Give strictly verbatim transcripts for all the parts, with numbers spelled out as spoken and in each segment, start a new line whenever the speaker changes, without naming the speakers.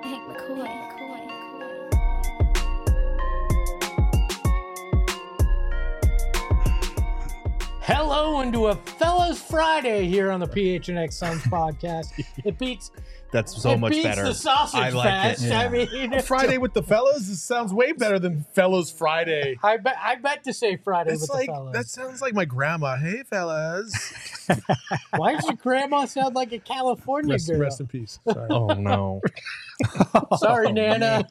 Hank McCoy.
Hello and to a Fellas Friday here on the P H N X Suns podcast. It beats
That's so
it
much
beats
better.
the sausage
I like
fest.
it.
I mean,
Friday with the fellas. This sounds way better than Fellas Friday.
I bet I bet to say Friday
It's
with
like
the fellas.
that sounds like my grandma. Hey, fellas.
Why does your grandma sound like a California
Rest,
girl?
rest in peace. Sorry.
Oh no.
Sorry,
Oh,
Nana.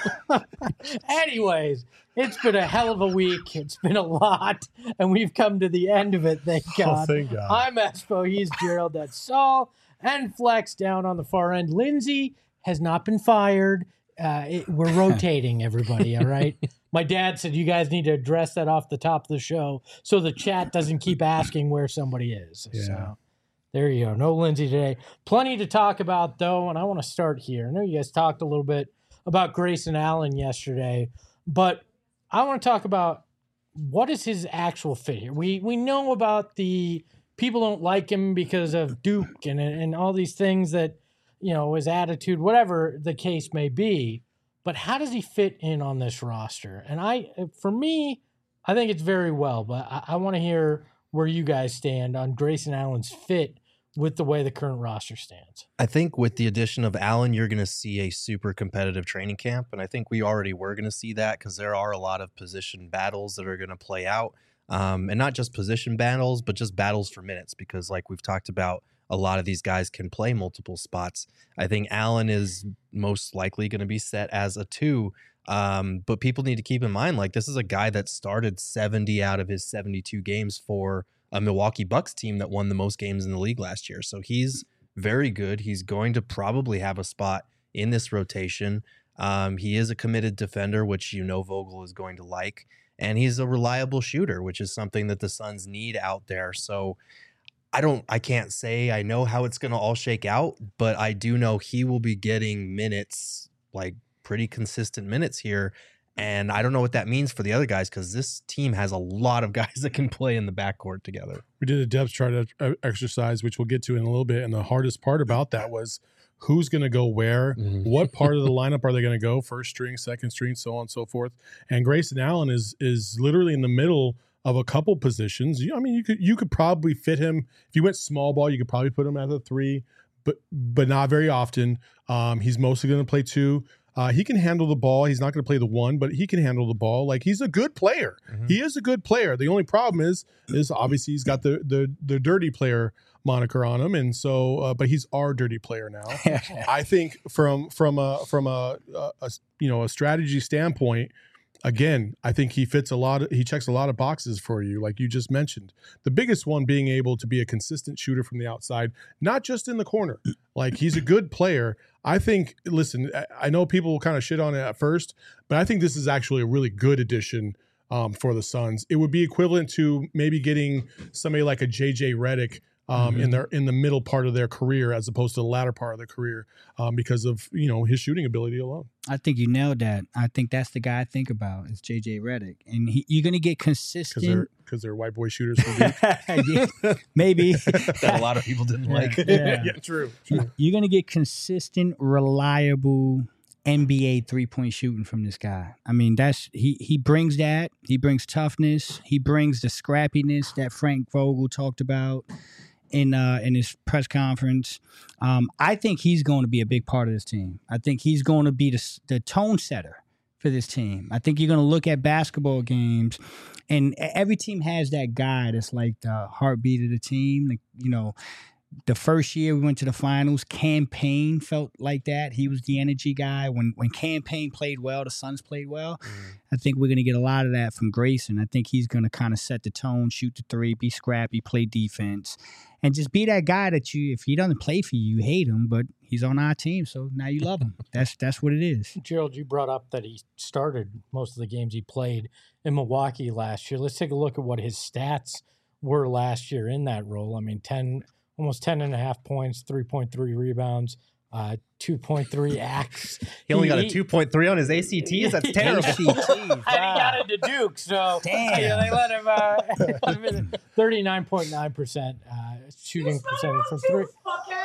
Anyways, it's been a hell of a week. It's been a lot, and we've come to the end of it. Thank God.
Oh, thank God.
I'm Espo. He's Gerald. That's Saul. And Flex down on the far end. Lindsay has not been fired. Uh, it, we're rotating, everybody, all right? My dad said you guys need to address that off the top of the show so the chat doesn't keep asking where somebody is.
Yeah.
So there you go. No Lindsay today. Plenty to talk about, though, and I want to start here. I know you guys talked a little bit about Grayson Allen yesterday, but I want to talk about what is his actual fit here. We we know about the people don't like him because of Duke and and all these things that, you know, his attitude, whatever the case may be. But how does he fit in on this roster? And I, for me, I think it's very well. But I, I want to hear where you guys stand on Grayson Allen's fit with the way the current roster stands.
I think with the addition of Allen, you're going to see a super competitive training camp. And I think we already were going to see that because there are a lot of position battles that are going to play out. Um, and not just position battles, but just battles for minutes. Because like we've talked about, a lot of these guys can play multiple spots. I think Allen is most likely going to be set as a two. Um, but people need to keep in mind, like this is a guy that started seventy out of his seventy-two games for a Milwaukee Bucks team that won the most games in the league last year. So he's very good. He's going to probably have a spot in this rotation. Um, he is a committed defender, which you know Vogel is going to like. And he's a reliable shooter, which is something that the Suns need out there. So I don't, I can't say I know how it's going to all shake out, but I do know he will be getting minutes, like pretty consistent minutes here. And I don't know what that means for the other guys because this team has a lot of guys that can play in the backcourt together.
We did a depth chart exercise, which we'll get to in a little bit. And the hardest part about that was who's going to go where,
Mm-hmm.
what part of the lineup are they going to go, first string, second string, so on and so forth. And Grayson Allen is is literally in the middle of a couple positions. I mean, you could you could probably fit him if you went small ball. You could probably put him at a three, but but not very often. Um, he's mostly going to play two. Uh, he can handle the ball. He's not going to play the one, but he can handle the ball. Like he's a good player.
Mm-hmm.
He is a good player. The only problem is is obviously he's got the the the dirty player moniker on him, and so uh, but he's our dirty player now. I think from from a from a, a, a you know a strategy standpoint. Again, I think he fits a lot of, he checks a lot of boxes for you, like you just mentioned. The biggest one being able to be a consistent shooter from the outside, not just in the corner. Like he's a good player. I think, listen, I know people will kind of shit on it at first, but I think this is actually a really good addition um, for the Suns. It would be equivalent to maybe getting somebody like a J J Redick Um,
Mm-hmm.
in their in the middle part of their career as opposed to the latter part of their career um, because of you know his shooting ability alone.
I think you nailed that. I think that's the guy I think about is J J Redick, and he, you're gonna get
Because
consistent.
they're because they're white boy shooters. From
Yeah, maybe
that a lot of people didn't like.
Yeah.
yeah, true. true.
You're gonna get consistent, reliable N B A three point shooting from this guy. I mean, that's he he brings that. He brings toughness. He brings the scrappiness that Frank Vogel talked about in uh, in his press conference. Um, I think he's going to be a big part of this team. I think he's going to be the, the tone setter for this team. I think you're going to look at basketball games, and every team has that guy that's like the heartbeat of the team. Like, you know, the first year we went to the finals, Cam Payne felt like that. He was the energy guy. When when Cam Payne played well, the Suns played well. Mm. I think we're going to get a lot of that from Grayson. I think he's going to kind of set the tone, shoot the three, be scrappy, play defense, and just be that guy that you, if he doesn't play for you, you hate him, but he's on our team, so now you love him. That's that's what it is.
Gerald, you brought up that he started most of the games he played in Milwaukee last year. Let's take a look at what his stats were last year in that role. I mean, ten, almost ten and a half points, three point three rebounds, uh, two point three acts.
He only got a two point three on his A C Ts. That's terrible.
A C Ts,
And he got into Duke, so
Damn.
yeah, they let him uh, thirty-nine point nine percent uh, shooting percentage from three.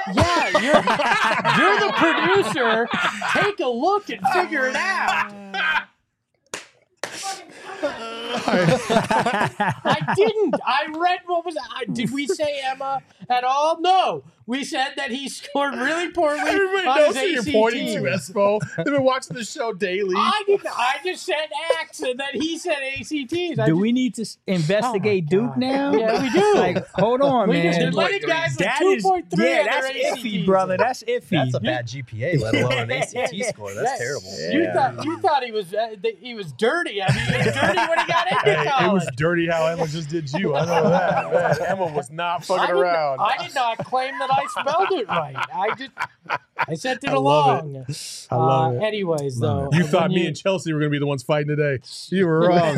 Yeah, you're you're the producer. Take a look and figure it out. I didn't. I read what was. I, did we say Emma at all? No. We said that he scored really poorly.
Everybody
on
knows
his
who you're
A C T.
pointing to, Espo. They've been watching the show daily.
I didn't. I just said X, and then he said A C Ts. I
Do
just,
we need to s- investigate
Oh my
Duke
God.
now?
Yeah, we do.
Like, hold on,
We
man.
just- they're letting guys with
That
two
is-
point three
yeah,
on their
that's
A C
iffy,
Ts.
brother. That's iffy.
That's a bad G P A, let alone an A C T score. That's
Yeah.
terrible.
You
Yeah.
thought you thought he was uh, th- he was dirty. I mean, he was dirty when he got into
Hey,
college.
it was dirty how Emma just did you. I know that. Man, Emma was not
I
fucking
did,
around.
I did not claim that I spelled it right. I just I sent it
I love
along.
I love
uh,
it.
Anyways, though,
You
when
thought me
you-
and Chelsea were going to be the ones fighting today. You were wrong.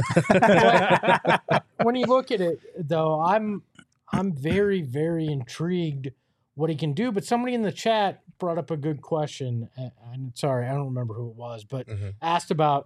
when you look at it, though, I'm I'm very very intrigued what he can do. But somebody in the chat brought up a good question. and- I'm sorry, I don't remember who it was, but
Mhm.
asked about,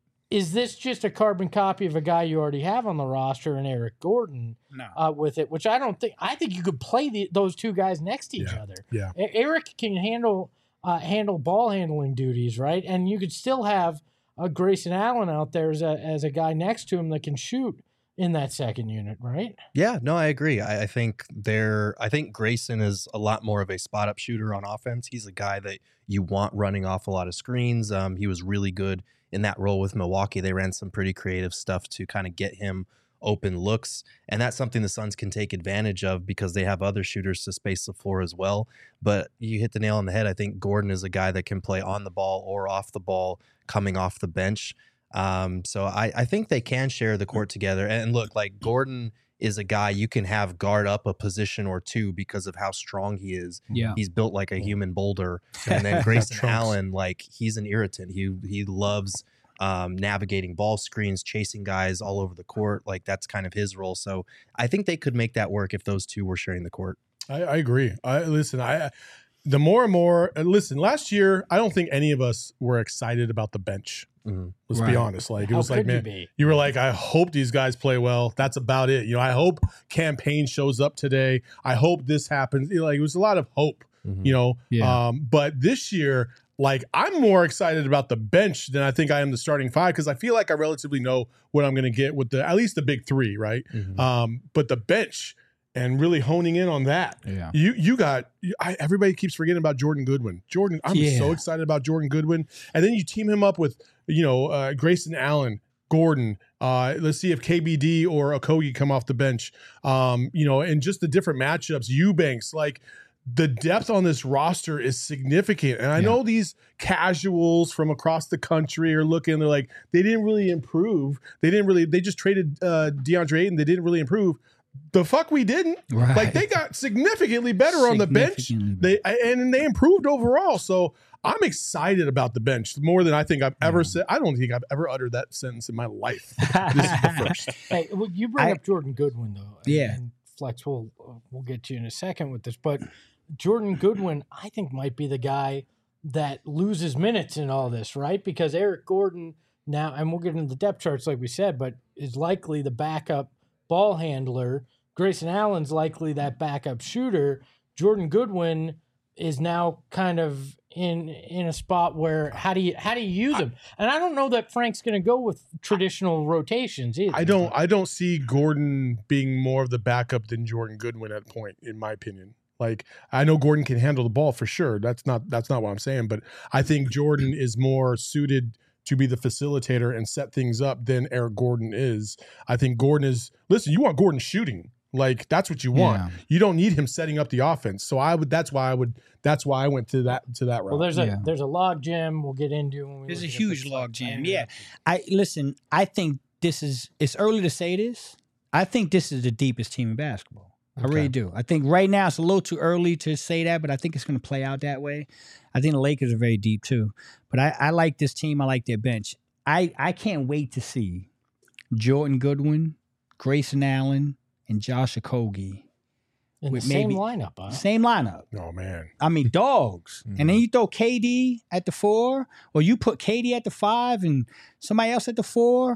is this just a carbon copy of a guy you already have on the roster in Eric Gordon
No.
uh, with it? Which I don't think. I think you could play the, those two guys next to each other.
Yeah.
E- Eric can handle uh, handle ball handling duties, right? And you could still have uh, Grayson Allen out there as a as a guy next to him that can shoot in that second unit, right?
Yeah, no, I agree. I, I think they're. I think Grayson is a lot more of a spot up shooter on offense. He's a guy that you want running off a lot of screens. Um, he was really good in that role with Milwaukee. They ran some pretty creative stuff to kind of get him open looks, and that's something the Suns can take advantage of because they have other shooters to space the floor as well. But you hit the nail on the head. I think Gordon is a guy that can play on the ball or off the ball, coming off the bench. Um, so I, I think they can share the court together. And look, like Gordon is a guy you can have guard up a position or two because of how strong he is.
Yeah.
He's built like a human boulder. And then Grayson
Trunks.
Allen, like he's an irritant. He he loves um, navigating ball screens, chasing guys all over the court. Like that's kind of his role. So I think they could make that work if those two were sharing the court.
I, I agree. I listen. I the more and more. uh, Listen, last year I don't think any of us were excited about the bench.
Mhm.
Let's
Right.
be honest. Like it
How
was like,
could you
man,
be?
you were like, I hope these guys play well. That's about it. You know, I hope campaign shows up today. I hope this happens. You know, like it was a lot of hope.
Mhm.
You know,
Yeah.
um, but this year, like I'm more excited about the bench than I think I am the starting five because I feel like I relatively know what I'm going to get with the at least the big three, right?
Mhm.
Um, but the bench and really honing in on that.
Yeah.
You you got you, I, everybody keeps forgetting about Jordan Goodwin. Jordan, I'm
Yeah.
so excited about Jordan Goodwin, and then you team him up with you know uh, Grayson Allen, Gordon. Uh, let's see if K B D or Okogie come off the bench. Um, you know, and just the different matchups. Eubanks, like the depth on this roster is significant, and I
Yeah.
know these casuals from across the country are looking. They're like they didn't really improve. They didn't really. They just traded uh, DeAndre Ayton. They didn't really improve. The fuck we didn't.
Right.
Like they got significantly better on the bench.
Significantly
They and they improved overall. So I'm excited about the bench more than I think I've ever
Yeah.
said. I don't think I've ever uttered that sentence in my life. This is the first.
Hey, well, you bring
I-
up Jordan Goodwin though. and-
Yeah.
and Flex, we'll we'll get you in a second with this, but Jordan Goodwin, I think, might be the guy that loses minutes in all this, right? Because Eric Gordon now, and we'll get into the depth charts like we said, but is likely the backup ball handler. Grayson Allen's likely that backup shooter. Jordan Goodwin is now kind of in in a spot where how do you how do you use him? And I don't know that Frank's going to go with traditional rotations either.
I don't. I don't see Gordon being more of the backup than Jordan Goodwin at point, in my opinion. Like I know Gordon can handle the ball for sure. That's not. That's not what I'm saying. But I think Jordan is more suited to be the facilitator and set things up than Eric Gordon is. I think Gordon is. Listen, you want Gordon shooting. Like that's what you want.
Yeah.
You don't need him setting up the offense. So I would. That's why I would. That's why I went to that to that route.
Well, there's a
Yeah.
there's a log jam we'll get into. When we
There's
look
a
at the
huge
Flex
log jam,
dynamic.
yeah. I listen. I think this is. It's early to say this. I think this is the deepest team in basketball. I
Okay.
really do. I think right now it's a little too early to say that, but I think it's going to play out that way. I think the Lakers are very deep too. But I, I like this team. I like their bench. I I can't wait to see Jordan Goodwin, Grayson Allen, and Josh Okogie.
in the
with
same
maybe-
lineup. Huh?
Same lineup.
Oh man.
I mean, dogs. And then you throw K D at the four, or you put K D at the five and somebody else at the four.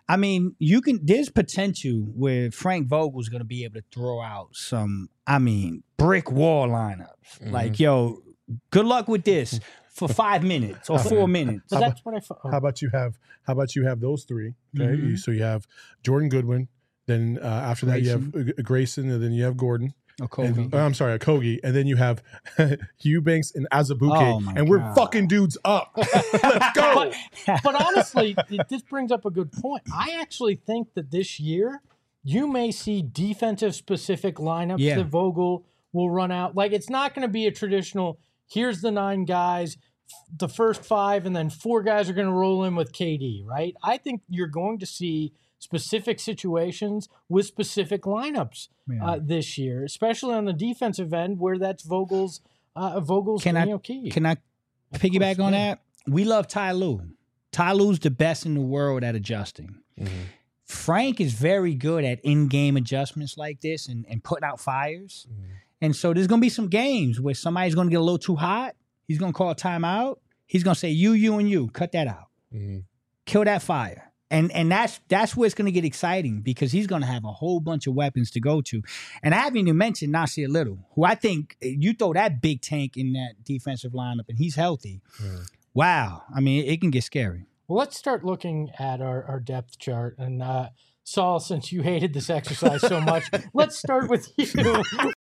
I mean, you can. There's potential where Frank Vogel's going to be able to throw out some. I mean, brick wall lineups.
Mhm.
Like, yo, good luck with this for five minutes or four minutes.
But that's what I thought.
How about you have how about you have those three? Okay,
Mhm.
You- so you have Jordan Goodwin. Then uh, after that you have uh, Grayson, and then you have Gordon.
Or Kobe.
And, oh, I'm sorry, a Kogi, and then you have Eubanks and Azubuike,
Oh, my
and we're
God.
fucking dudes up. Let's go.
But honestly, th- this brings up a good point. I actually think that this year you may see defensive specific lineups
Yeah.
that Vogel will run out. Like, it's not going to be a traditional, here's the nine guys, f- the first five, and then four guys are going to roll in with K D, right? I think you're going to see specific situations with specific lineups
Yeah.
uh, this year, especially on the defensive end where that's Vogel's uh, Vogel's
Can I-
you know, key.
Can I
Of
piggyback
course,
on
yeah.
that? We love Ty Lue. Ty Lue's the best in the world at adjusting.
Mhm.
Frank is very good at in-game adjustments like this and, and putting out fires.
Mhm.
And so there's going to be some games where somebody's going to get a little too hot. He's going to call a timeout. He's going to say, you, you, and you. Cut that out.
Mhm.
Kill that fire. And and that's that's where it's going to get exciting because he's going to have a whole bunch of weapons to go to. And I haven't even mentioned Nasir Little, who I think you throw that big tank in that defensive lineup and he's healthy.
Mhm.
Wow. I mean, it can get scary.
Well, let's start looking at our, our depth chart. And uh, Saul, since you hated this exercise so much, let's start with you.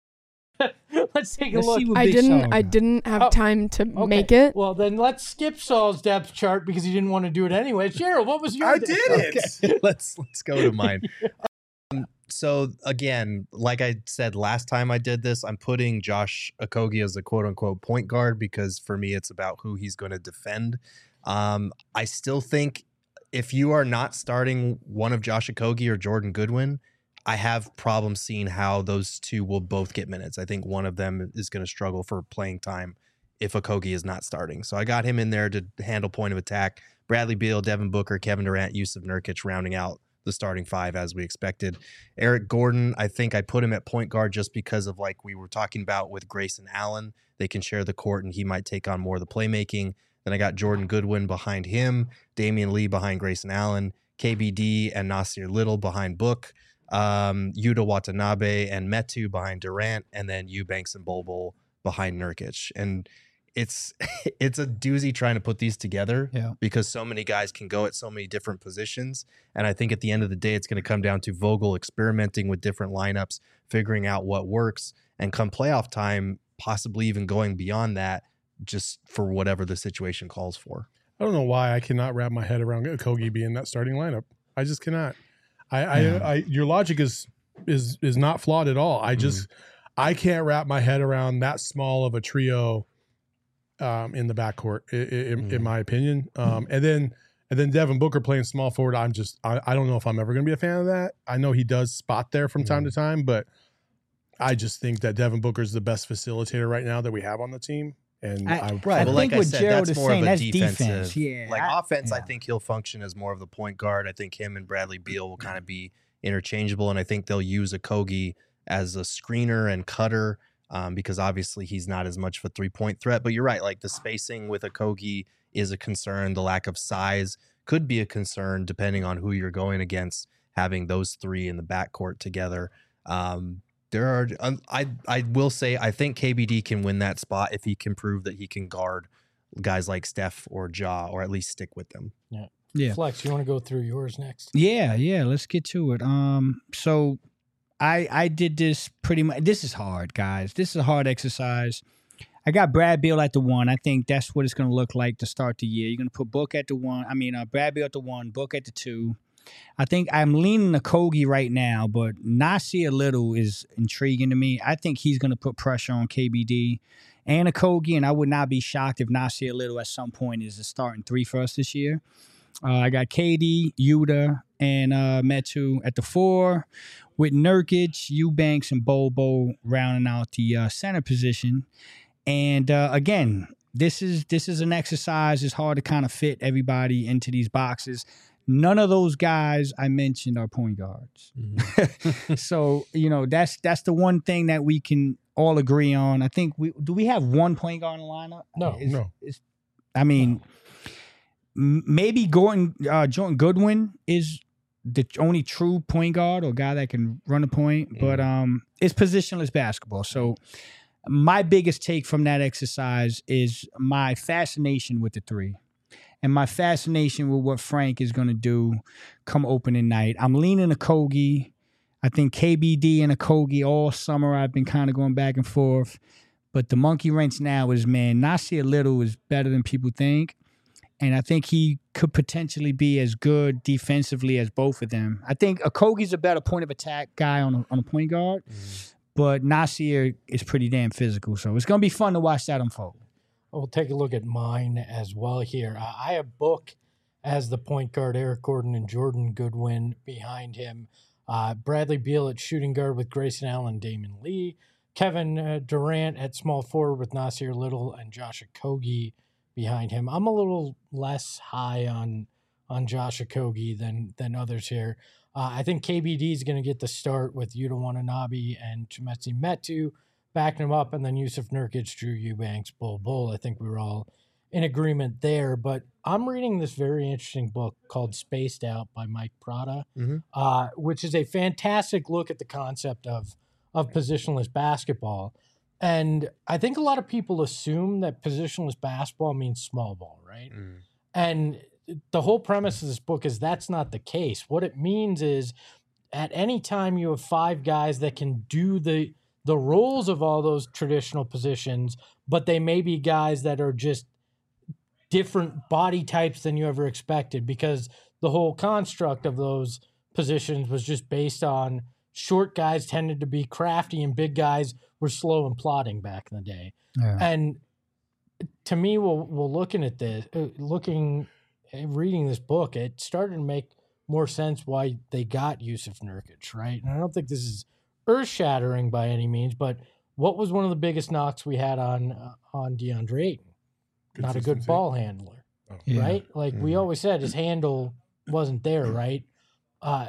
Let's take a
Let's
look.
see what
I
Big
didn't.
Saul
I
got.
didn't have
Oh,
time to
Okay.
make it.
Well, then let's skip Saul's depth chart because he didn't want to do it anyway. Gerald, what was your
I
depth
did
chart?
it.
Okay, let's let's go to mine. Um, so again, like I said last time I did this, I'm putting Josh Okogie as a quote unquote point guard because for me it's about who he's going to defend. Um, I still think if you are not starting one of Josh Okogie or Jordan Goodwin, I have problems seeing how those two will both get minutes. I think one of them is going to struggle for playing time if Okogie is not starting. So I got him in there to handle point of attack. Bradley Beal, Devin Booker, Kevin Durant, Yusuf Nurkic rounding out the starting five as we expected. Eric Gordon, I think I put him at point guard just because of like we were talking about with Grayson Allen. They can share the court and he might take on more of the playmaking. Then I got Jordan Goodwin behind him, Damian Lee behind Grayson Allen, K B D and Nasir Little behind Book, um, Yuta Watanabe and Metu behind Durant, and then Eubanks and Bol Bol behind Nurkic. And it's it's a doozy trying to put these together
Yeah.
because so many guys can go at so many different positions. And I think at the end of the day, it's going to come down to Vogel experimenting with different lineups, figuring out what works, and come playoff time, possibly even going beyond that just for whatever the situation calls for.
I don't know why I cannot wrap my head around Okogie being that starting lineup. I just cannot. I,
Yeah.
I, I your logic is is is not flawed at all. I just I can't wrap my head around that small of a trio um, in the backcourt, i- i- in, in
Mhm.
my opinion. Um, and then and then Devin Booker playing small forward. I'm just I, I don't know if I'm ever going to be a fan of that. I know he does spot there from time to time, but I just think that Devin Booker is the best facilitator right now that we have on the team. And
I-
I,
right. I
Well,
think
like I
what
said,
Gerald
that's
is
more
saying,
of a
that's
defensive.
defense. Yeah,
Like
I-
offense, I
yeah.
think he'll function as more of the point guard. I think him and Bradley Beal will kind of be interchangeable, and I think they'll use Okogie as a screener and cutter um, because obviously he's not as much of a three point threat. But you're right, like the spacing with Okogie is a concern. The lack of size could be a concern depending on who you're going against. Having those three in the backcourt together. Um, There are, um, I I will say, I think K B D can win that spot if he can prove that he can guard guys like Steph or Ja, or at least stick with them.
Yeah.
Flex, you want to go through yours next?
Yeah, yeah, let's get to it. Um, so I I did this pretty much. This is hard, guys. This is a hard exercise. I got Brad Beal at the one. I think that's what it's going to look like to start the year. You're going to put Book at the one. I mean, uh, Brad Beal at the one, Book at the two. I think I'm leaning Okogie right now, but Nasir Little is intriguing to me. I think he's going to put pressure on K B D and Okogie, and I would not be shocked if Nasir Little at some point is the starting three for us this year. Uh, I got K D, Yuta, and uh, Metu at the four, with Nurkic, Eubanks, and Bol Bol rounding out the uh, center position. And uh, again, this is this is an exercise. It's hard to kind of fit everybody into these boxes. None of those guys I mentioned are point guards. So, you know, that's that's the one thing that we can all agree on. I think we do we have one point guard in the lineup?
No,
Is-
no.
is- I mean, m- maybe Gordon uh, Jordan Goodwin is the only true point guard or guy that can run a point, but um, it's positionless basketball. So my biggest take from that exercise is my fascination with the three and my fascination with what Frank is going to do come opening night. I'm leaning Okogie. I think K B D and Okogie all summer I've been kind of going back and forth. But the monkey wrench now is, man, Nasir Little is better than people think. And I think he could potentially be as good defensively as both of them. I think Okogie's a better point of attack guy on a, on a point guard, mm. but Nasir is pretty damn physical. So it's going to be fun to watch that unfold.
We'll take a look at mine as well here. Uh, I have Book as the point guard, Eric Gordon and Jordan Goodwin behind him. Uh, Bradley Beal at shooting guard with Grayson Allen, Damon Lee. Kevin uh, Durant at small forward with Nasir Little and Josh Okogie behind him. I'm a little less high on on Josh Okogie than than others here. Uh, I think K B D is going to get the start with Yuta Watanabe and Chimezie Metu backing him up, and then Yusuf Nurkic, Drew Eubanks, Bol Bol. I think we were all in agreement there. But I'm reading this very interesting book called Spaced Out by Mike Prada, mm-hmm. uh, which is a fantastic look at the concept of of positionless basketball. And I think a lot of people assume that positionless basketball means small ball, right? Mm. And the whole premise of this book is that's not the case. What it means is at any time you have five guys that can do the the roles of all those traditional positions, but they may be guys that are just different body types than you ever expected, because the whole construct of those positions was just based on short guys tended to be crafty and big guys were slow and plodding back in the day. Yeah. And to me, we'll, we'll looking at this, uh, looking, reading this book, it started to make more sense why they got Yusuf Nurkic, right? And I don't think this is earth-shattering by any means, but what was one of the biggest knocks we had on uh, on DeAndre Ayton? Not a good ball handler, oh. right? Yeah. Like mm-hmm. we always said, his handle wasn't there, right? Uh,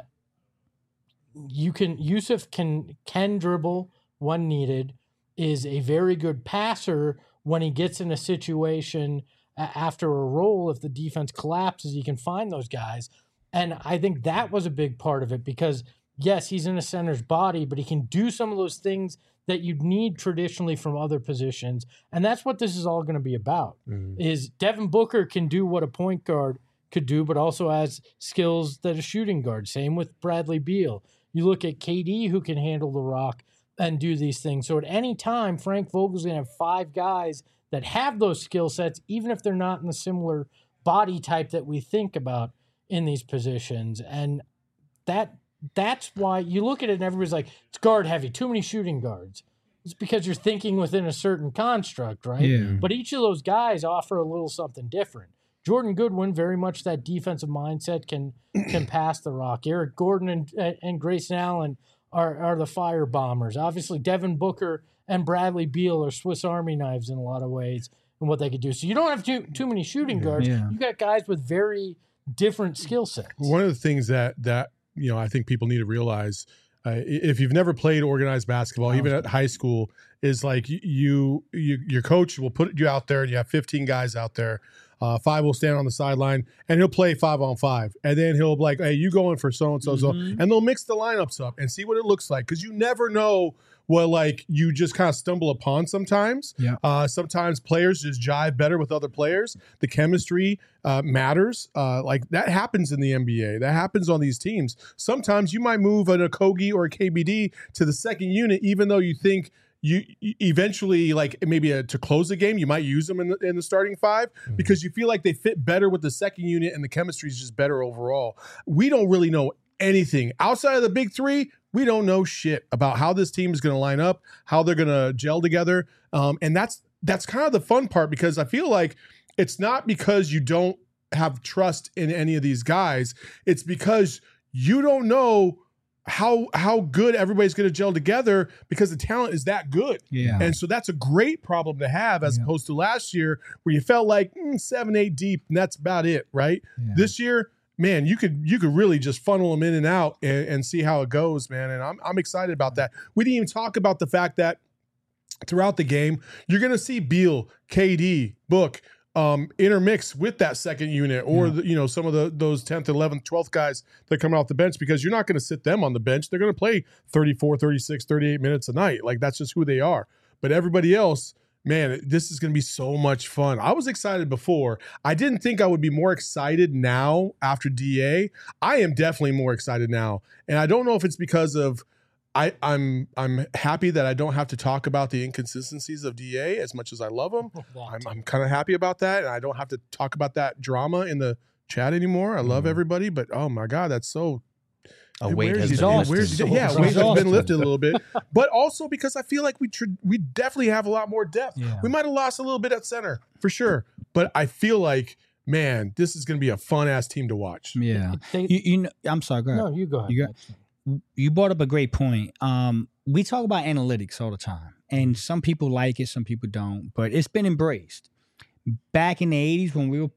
you can Yusuf can can dribble when needed, is a very good passer when he gets in a situation after a roll. If the defense collapses, he can find those guys. And I think that was a big part of it, because yes, he's in a center's body, but he can do some of those things that you'd need traditionally from other positions. And that's what this is all going to be about, mm-hmm. is Devin Booker can do what a point guard could do, but also has skills that a shooting guard. Same with Bradley Beal. You look at K D, who can handle the rock and do these things. So at any time, Frank Vogel's going to have five guys that have those skill sets, even if they're not in the similar body type that we think about in these positions. And that that's why you look at it and everybody's like, it's guard heavy, too many shooting guards. It's because you're thinking within a certain construct, right? Yeah. But each of those guys offer a little something different. Jordan Goodwin, very much that defensive mindset, can can pass the rock. Eric Gordon and and Grayson Allen are, are the fire bombers. Obviously, Devin Booker and Bradley Beal are Swiss Army knives in a lot of ways and what they could do. So you don't have too too many shooting guards. Yeah. You got guys with very different skill sets.
One of the things that that you know I think people need to realize, uh, if you've never played organized basketball, even at high school, is like you, you your coach will put you out there and you have fifteen guys out there. Uh, five will stand on the sideline, and he'll play five on five. And then he'll be like, hey, you going for so-and-so, so. And they'll mix the lineups up and see what it looks like, because you never know what, like, you just kind of stumble upon sometimes. Yeah. Uh, sometimes players just jive better with other players. The chemistry uh, matters. Uh, like, that happens in the N B A. That happens on these teams. Sometimes you might move an Okogie or a K B D to the second unit, even though you think – you eventually, like maybe a, to close the game, you might use them in the, in the starting five mm-hmm. because you feel like they fit better with the second unit and the chemistry is just better overall. We don't really know anything outside of the big three. We don't know shit about how this team is going to line up, how they're going to gel together. Um, and that's, that's kind of the fun part, because I feel like it's not because you don't have trust in any of these guys. It's because you don't know how how good everybody's going to gel together, because the talent is that good. Yeah. And so that's a great problem to have, as yeah. opposed to last year where you felt like mm, seven, eight deep, and that's about it, right? Yeah. This year, man, you could you could really just funnel them in and out and, and see how it goes, man. And I'm I'm excited about that. We didn't even talk about the fact that throughout the game, you're going to see Beal, K D, Book, um, intermix with that second unit or
Yeah.
the, you know some of the those tenth, eleventh, twelfth guys that come off the bench, because you're not going to sit them on the bench. They're going to play thirty-four, thirty-six, thirty-eight minutes a night. Like that's just who they are. But everybody else, man, this is going to be so much fun. I was excited before. I didn't think I would be more excited now after D A. I am definitely more excited now. And I don't know if it's because of I, I'm I'm happy that I don't have to talk about the inconsistencies of D A as much as I love him. I'm, I'm kind of happy about that. And I don't have to talk about that drama in the chat anymore. I love
Mhm.
everybody, but oh my God, that's so
A
it
weight
wears
has
you
been
down.
exhausting.
Wears-
lifted.
yeah,
It's
weight has
exhausting.
been lifted a little bit, but also because I feel like we tr- we definitely have a lot more depth.
Yeah.
We might have lost a little bit at center for sure, but I feel like, man, this is going to be a fun ass team to watch.
Yeah.
They,
You, you know, I'm sorry. Go ahead.
no, you go ahead.
You got- You brought up a great point. Um, we talk about analytics all the time, and some people like it, some people don't, but it's been embraced. Back in the eighties when we were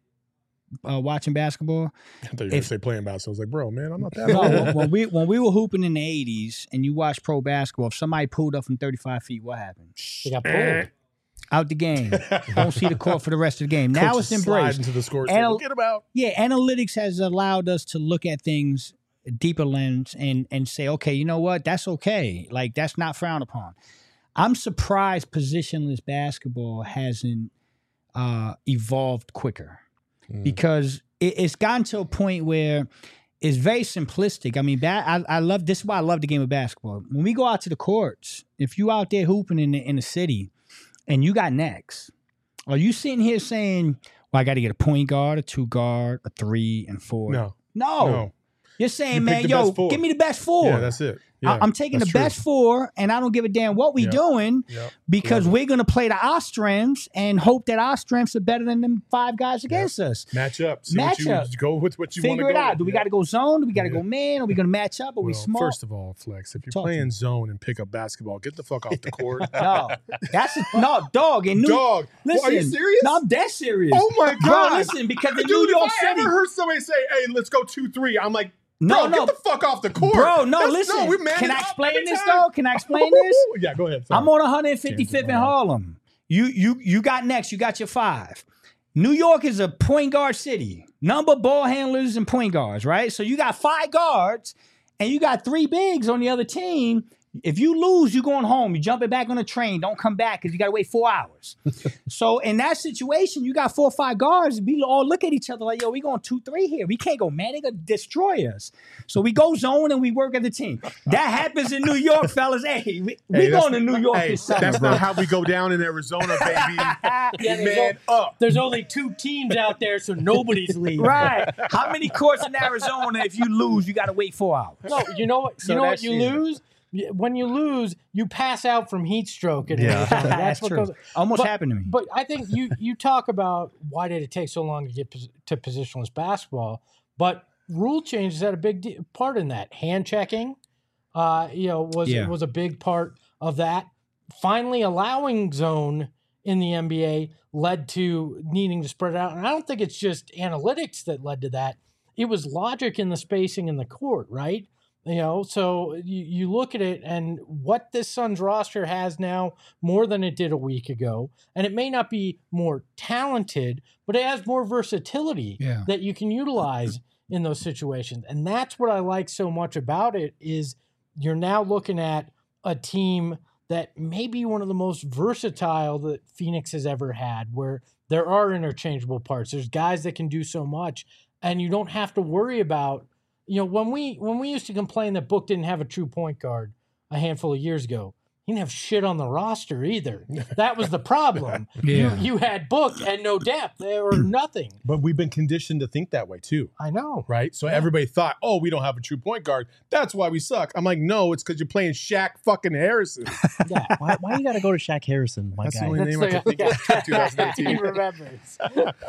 uh, watching basketball,
I thought you were going
If-
to say playing basketball. I was like, bro, man, I'm not that
no,
old.
when, when we when we were hooping in the eighties and you watch pro basketball, if somebody pulled up from thirty-five feet, what happened?
They got pulled.
Out the game. Don't see the court for the rest of the game. Now
Coaches
it's
slide
embraced.
into the score
Anal-
table. Get him out.
Yeah, analytics has allowed us to look at things deeper lens and and say, okay, you know what? That's okay. Like that's not frowned upon. I'm surprised positionless basketball hasn't uh, evolved quicker
Mm.
because it, it's gotten to a point where it's very simplistic. I mean, ba- I, I love this is why I love the game of basketball. When we go out to the courts, if you out there hooping in the, in the city and you got next, are you sitting here saying, well, I got to get a point guard, a two guard, a three, and four?
No,
No.
no.
You're saying,
You pick
man,
the
yo,
best four.
give me the best four.
Yeah, that's it.
I-
Yeah,
I'm taking the
that's true.
best four, and I don't give a damn what we
Yeah.
doing
Yep.
because
Love it.
we're going to play the our strengths and hope that our strengths are better than them five guys against us.
Match up. See
Match
what you,
up.
Go with what you want to
Figure
go
it out.
with.
Do we
Yeah.
got to go zone? Do we got to
Yeah.
go man? Are we going to match up? Are we
Well,
small?
First of all, Flex, if you're
Talk to
playing
me.
zone and pick up basketball, get the fuck off the court.
no, that's a, no dog. And New,
Dog.
listen,
Well, are you serious?
No, I'm dead serious.
Oh my
Bro,
God.
listen, because in
Dude,
New York
if I
City,
ever heard somebody say, hey, let's go two three, I'm like,
no,
bro,
no,
get the fuck off the court.
bro, no,
That's-
listen.
No, we man
Can
it
I
up
explain
every
this
time.
though? Can I explain this?
Yeah, go ahead. Sorry.
I'm on one fifty-fifth in
Wow.
Harlem. You you you got next. You got your five. New York is a point guard city. Number ball handlers and point guards, right? So you got five guards and you got three bigs on the other team. If you lose, you're going home. You're jumping back on the train. Don't come back because you got to wait four hours. So in that situation, you got four or five guards. We all look at each other like, yo, we going two, three here. We can't go, man. They going to destroy us. So we go zone and we work as a team. That happens in New York, fellas. Hey, we, we
Hey, that's-
going to New York
Hey,
this summer,
that's
bro.
not how we go down in Arizona, baby.
Yeah, there's,
Man
o-
up.
there's only two teams out there, so nobody's leaving.
Right. How many courts in Arizona, if you lose, you got to wait four hours?
No, you know what?
So
you know what
that's
you
it.
lose. Y- When you lose, you pass out from heat stroke. In
Yeah.
Arizona. That's,
That's
what
true.
goes.
Almost
But-
happened to me.
But I think you you talk about why did it take so long to get pos- to positionless basketball, but rule changes had a big de- part in that. Hand checking, uh, you know, was
Yeah.
was a big part of that. Finally, allowing zone in the N B A led to needing to spread it out, and I don't think it's just analytics that led to that. It was logic in the spacing in the court, right? You know, so you, you look at it and what this Suns roster has now more than it did a week ago. And it may not be more talented, but it has more versatility
Yeah.
that you can utilize in those situations. And that's what I like so much about it is you're now looking at a team that may be one of the most versatile that Phoenix has ever had, where there are interchangeable parts. There's guys that can do so much, and you don't have to worry about, you know, when we when we used to complain that Book didn't have a true point guard a handful of years ago, he didn't have shit on the roster either. That was the problem.
Yeah.
You, you had Book and no depth or nothing.
But we've been conditioned to think that way too,
I know.
right? So
Yeah.
everybody thought, oh, we don't have a true point guard. That's why we suck. I'm like, no, it's because you're playing Shaq fucking Harrison.
Yeah.
Why, why you got to go to Shaq Harrison, my
That's the
guy?
only
That's
name I
the-
can think of.
yeah.
twenty
He
eighteen.
remembers.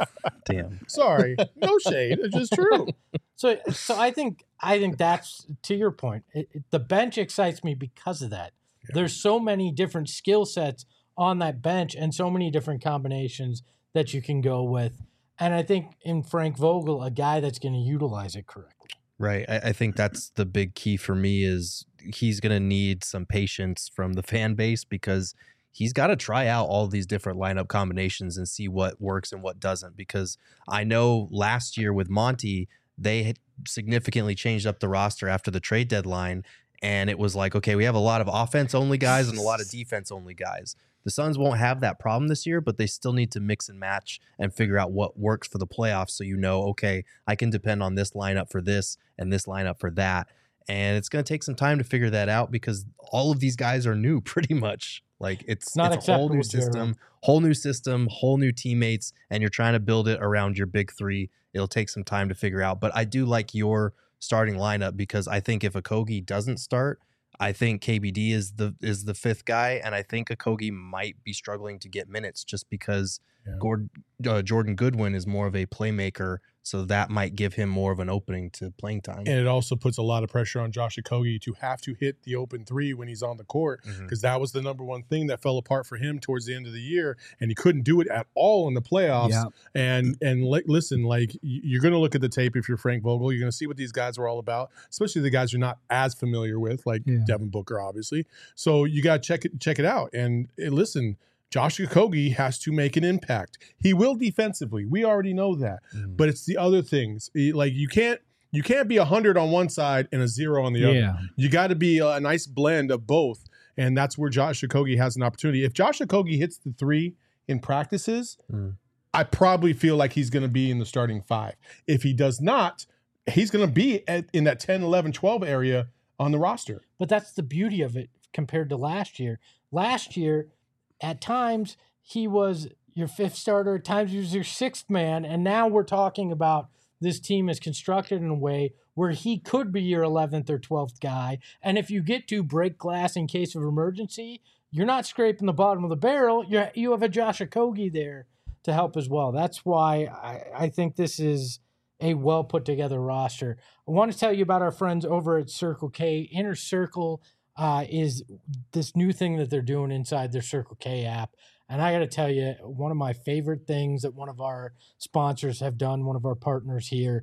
Damn.
Sorry, no shade. It's just true.
So, so I think I think that's to your point. It, it- the bench excites me because of that. There's so many different skill sets on that bench and so many different combinations that you can go with. And I think in Frank Vogel, a guy that's going to utilize it correctly.
Right. I, I think that's the big key for me is he's going to need some patience from the fan base because he's got to try out all these different lineup combinations and see what works and what doesn't. Because I know last year with Monty, they had significantly changed up the roster after the trade deadline. And it was like, okay, we have a lot of offense only guys and a lot of defense only guys. The Suns won't have that problem this year, but they still need to mix and match and figure out what works for the playoffs. So, you know, okay, I can depend on this lineup for this and this lineup for that. And it's going to take some time to figure that out because all of these guys are new pretty much. Like it's,
it's, not
it's a whole new system,
Jared.
whole new system, whole new teammates, and you're trying to build it around your big three. It'll take some time to figure out. But I do like your starting lineup because I think if Okogie doesn't start, I think K B D is the is the fifth guy, and I think Okogie might be struggling to get minutes just because yeah. Gord, uh, Jordan Goodwin is more of a playmaker, so that might give him more of an opening to playing time.
And it also puts a lot of pressure on Josh Okogie to have to hit the open three when he's on the court because mm-hmm. that was the number one thing that fell apart for him towards the end of the year, and he couldn't do it at all in the playoffs. Yeah. And and li- listen, like you're going to look at the tape if you're Frank Vogel, you're going to see what these guys were all about, especially the guys you're not as familiar with, like yeah. Devin Booker, obviously. So you got to check it check it out. And uh, listen, Josh Okogie has to make an impact. He will defensively. We already know that. Mm. But it's the other things. Like you can't you can't be a hundred on one side and a zero on the other.
Yeah.
You got to be a, a nice blend of both. And that's where Josh Okogie has an opportunity. If Josh Okogie hits the three in practices, mm. I probably feel like he's going to be in the starting five. If he does not, he's going to be at, in that ten, eleven, twelve area on the roster.
But that's the beauty of it compared to last year. Last year, at times, he was your fifth starter. At times, he was your sixth man. And now we're talking about this team is constructed in a way where he could be your eleventh or twelfth guy. And if you get to break glass in case of emergency, you're not scraping the bottom of the barrel. You you have a Josh Okogie there to help as well. That's why I, I think this is a well put together roster. I want to tell you about our friends over at Circle K. Inner Circle Uh, is this new thing that they're doing inside their Circle K app. And I got to tell you, one of my favorite things that one of our sponsors have done, one of our partners here,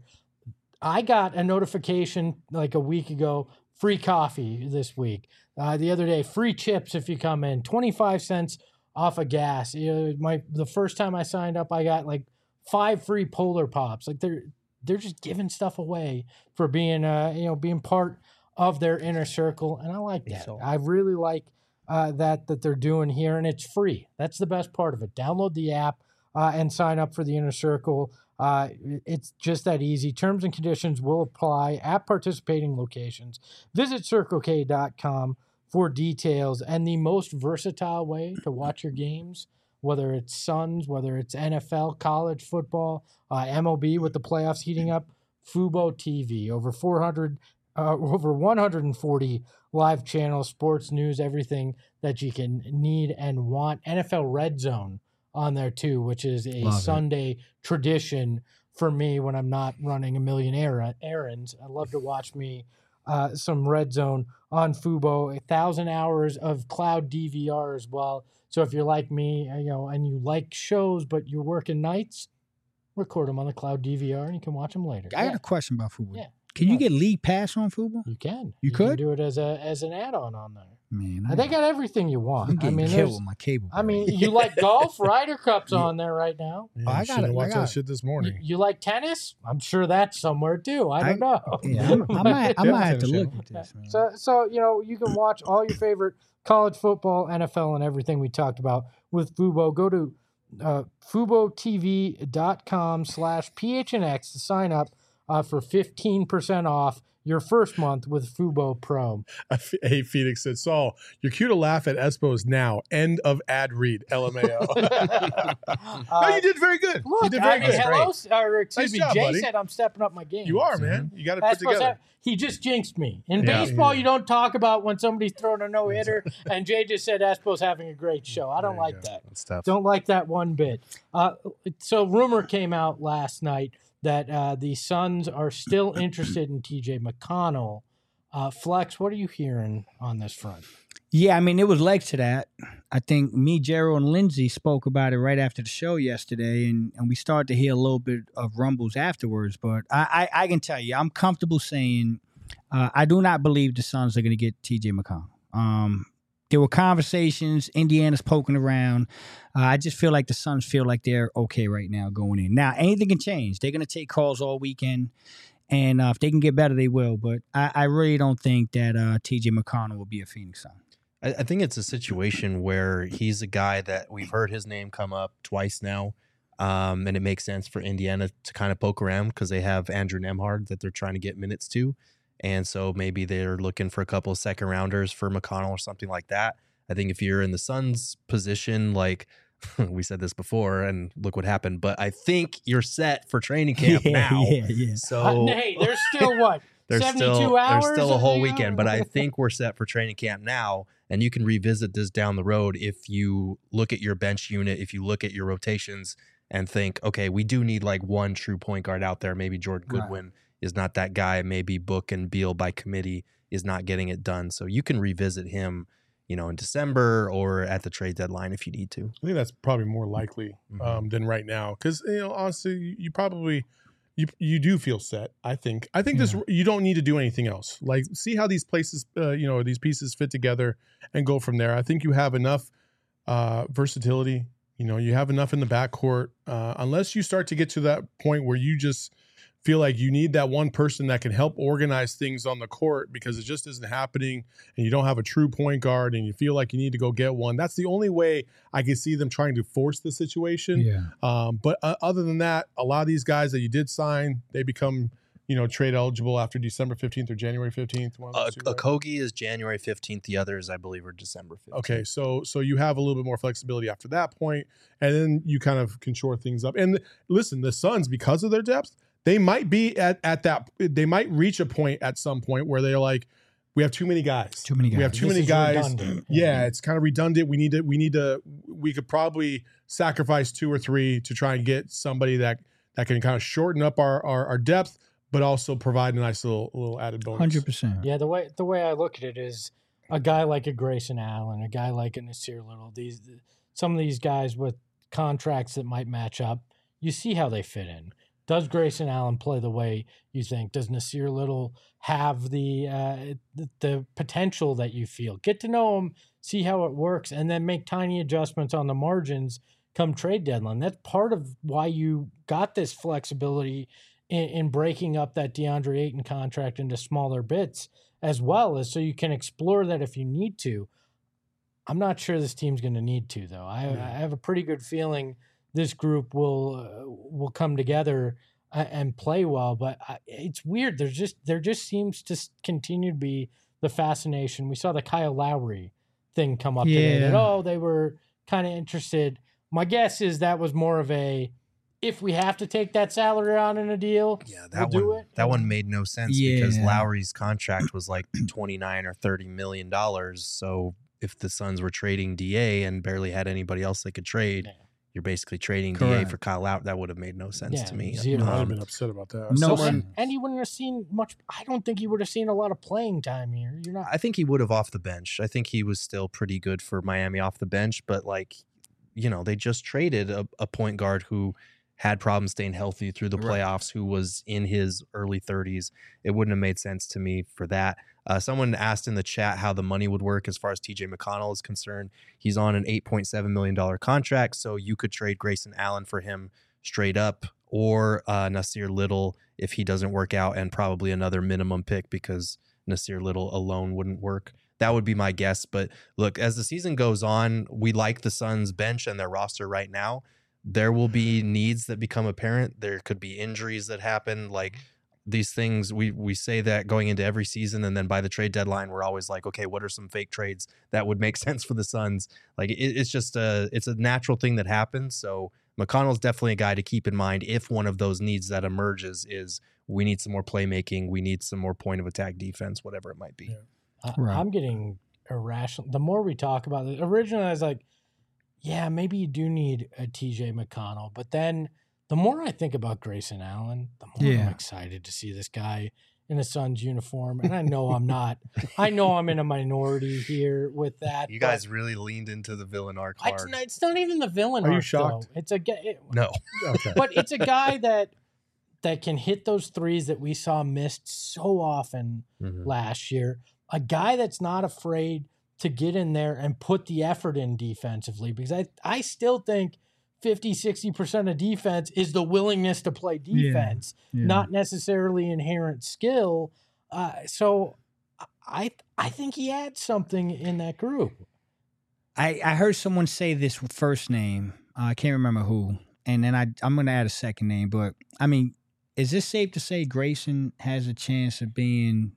I got a notification like a week ago, free coffee this week. Uh, the other day, free chips if you come in, twenty-five cents off of gas. You know, my the first time I signed up, I got like five free Polar Pops. Like they're they're just giving stuff away for being uh you know being part of their inner circle, and I like that. So, I really like uh, that that they're doing here, and it's free. That's the best part of it. Download the app uh, and sign up for the inner circle. Uh, it's just that easy. Terms and conditions will apply at participating locations. Visit circle k dot com for details and the most versatile way to watch your games, whether it's Suns, whether it's N F L, college football, uh, M L B with the playoffs heating up, Fubo T V, over four hundred Uh, over one hundred forty live channels, sports, news, everything that you can need and want. N F L Red Zone on there too, which is a Love Sunday it. tradition for me when I'm not running a million er- errands. I love to watch me uh, some Red Zone on Fubo. A thousand hours of cloud D V R as well. So if you're like me, you know, and you like shows but you're working nights, record them on the cloud D V R and you can watch them later.
I
yeah.
got a question about Fubo.
Yeah.
Can you get League Pass on Fubo?
You can.
You,
you
could
can do it as a as an add-on on there.
Man,
I, they got everything you want.
I'm getting
I mean,
killed with my cable.
I mean, you like golf? Ryder Cup's on there right now.
Yeah, oh, I got to watch that shit this morning.
You, you like tennis? I'm sure that's somewhere too. I don't I, know.
Yeah, I might, I might have to look at this. Man.
So, so you know, you can watch all your favorite college football, N F L, and everything we talked about with Fubo. Go to uh, fubo t v dot com slash p h n x to sign up uh, for fifteen percent off your first month with Fubo Pro.
Hey, Phoenix said, Saul, you're cute to laugh at Espos now. End of ad read. L M A O.
uh,
no, you did very good.
Look,
you did very
I mean,
good.
hello, or excuse
nice
me,
job,
Jay
buddy.
said I'm stepping up my game.
You are, man. You got to put together.
Have, he just jinxed me. In
yeah,
baseball,
yeah.
you don't talk about when somebody's throwing a no-hitter, and Jay just said Espos having a great show. I don't like go. that.
That's tough.
Don't like that one bit. Uh, so rumor came out last night that uh, the Suns are still interested in T J McConnell. Uh, Flex, what are you hearing on this front?
Yeah, I mean, it was legs to that. I think me, Gerald, and Lindsay spoke about it right after the show yesterday, and, and we started to hear a little bit of rumbles afterwards. But I, I, I can tell you, I'm comfortable saying uh, I do not believe the Suns are going to get T J McConnell. Um, there were conversations. Indiana's poking around. Uh, I just feel like the Suns feel like they're okay right now going in. Now, anything can change. They're going to take calls all weekend. And uh, if they can get better, they will. But I, I really don't think that uh, T J McConnell will be a Phoenix Sun.
I, I think it's a situation where he's a guy that we've heard his name come up twice now. Um, and it makes sense for Indiana to kind of poke around because they have Andrew Nembhard that they're trying to get minutes to. And so maybe they're looking for a couple of second rounders for McConnell or something like that. I think if you're in the Suns position, like we said this before and look what happened, but I think you're set for training camp
yeah,
now.
Yeah, yeah.
So
Uh, hey, there's still what?
there's
seventy-two
still,
hours?
There's still a whole
Yeah.
weekend, but I think we're set for training camp now. And you can revisit this down the road if you look at your bench unit, if you look at your rotations and think, okay, we do need like one true point guard out there. Maybe Jordan Goodwin right. is not that guy. Maybe Book and Beal by committee is not getting it done. So you can revisit him, you know, in December or at the trade deadline if you need to.
I think that's probably more likely um,
Mm-hmm.
than right now because, you know, honestly, you, you probably you you do feel set. I think. I think
Yeah.
this you don't need to do anything else. Like, see how these places, uh, you know, these pieces fit together and go from there. I think you have enough uh, versatility. You know, you have enough in the backcourt. Uh, unless you start to get to that point where you just feel like you need that one person that can help organize things on the court because it just isn't happening and you don't have a true point guard and you feel like you need to go get one. That's the only way I can see them trying to force the situation.
Yeah.
Um, but uh, other than that, a lot of these guys that you did sign, they become, you know, trade eligible after December fifteenth or January fifteenth. One of
Uh,
those two, right?
Okogie is January fifteenth. The others, I believe, are December fifteenth.
Okay, so so you have a little bit more flexibility after that point, and then you kind of can shore things up. And listen, the Suns, because of their depth, they might be at at that. They might reach a point at some point where they're like, we have too many guys.
Too many
We have
guys.
too
This
many
is
guys.
redundant.
Yeah, it's kind of redundant. We need to. We need to. We could probably sacrifice two or three to try and get somebody that that can kind of shorten up our our, our depth, but also provide a nice little little added bonus.
Hundred percent.
Yeah, the way the way I look at it is a guy like a Grayson Allen, a guy like a Nasir Little, these some of these guys with contracts that might match up, you see how they fit in. Does Grayson Allen play the way you think? Does Nasir Little have the, uh, the the potential that you feel? Get to know him, see how it works, and then make tiny adjustments on the margins come trade deadline. That's part of why you got this flexibility in, in breaking up that DeAndre Ayton contract into smaller bits, as well as so you can explore that if you need to. I'm not sure this team's going to need to, though. I,
Yeah.
I have a pretty good feeling this group will uh, will come together uh, and play well. But I, it's weird. There's just there just seems to s- continue to be the fascination. We saw the Kyle Lowry thing come up today. That
Yeah.
oh, they were kind of interested. My guess is that was more of a if we have to take that salary on in a deal,
Yeah, that
we'll do
one
it.
that
And-
one made no sense because
Yeah.
Lowry's contract was like twenty-nine or thirty million dollars. So if the Suns were trading D A and barely had anybody else they could trade,
Yeah.
you're basically trading D A
Correct.
for Kyle Lowry. That would have made no sense
Yeah,
to me.
zero.
I'd have
Um,
been upset about that.
No
So,
sense.
and, and he wouldn't have seen much. I don't think he would have seen a lot of playing time here. You're not.
I think he would have off the bench. I think he was still pretty good for Miami off the bench, but like, you know, they just traded a, a point guard who had problems staying healthy through the
Right.
playoffs, who was in his early thirties. It wouldn't have made sense to me for that. Uh, someone asked in the chat how the money would work as far as T J McConnell is concerned. He's on an eight point seven million dollars contract, so you could trade Grayson Allen for him straight up, or uh, Nasir Little if he doesn't work out, and probably another minimum pick because Nasir Little alone wouldn't work. That would be my guess. But look, as the season goes on, we like the Suns bench and their roster right now. There will be needs that become apparent. There could be injuries that happen. Like these things, we we say that going into every season, and then by the trade deadline, we're always like, okay, what are some fake trades that would make sense for the Suns? Like it, it's just a it's a natural thing that happens. So McConnell's definitely a guy to keep in mind if one of those needs that emerges is we need some more playmaking, we need some more point of attack defense, whatever it might be.
Yeah.
I,
Right.
I'm getting irrational. The more we talk about it, originally I was like, yeah, maybe you do need a T J McConnell. But then the more I think about Grayson Allen, the more I'm
Yeah.
excited to see this guy in a Suns uniform. And I know I'm not, I know I'm in a minority here with that.
You
but
guys really leaned into the villain arc
I-
hard.
It's not, it's not even the villain.
Are you
arc,
shocked?
Though. It's a ga- it,
No.
Okay.
but it's a guy that that can hit those threes that we saw missed so often
Mhm.
last year. A guy that's not afraid to get in there and put the effort in defensively, because I, I still think fifty, sixty percent of defense is the willingness to play defense,
Yeah, yeah.
not necessarily inherent skill. Uh, so I I think he had something in that group.
I, I heard someone say this first name. Uh, I can't remember who. And then I, I'm going to add a second name. But, I mean, is this safe to say Grayson has a chance of being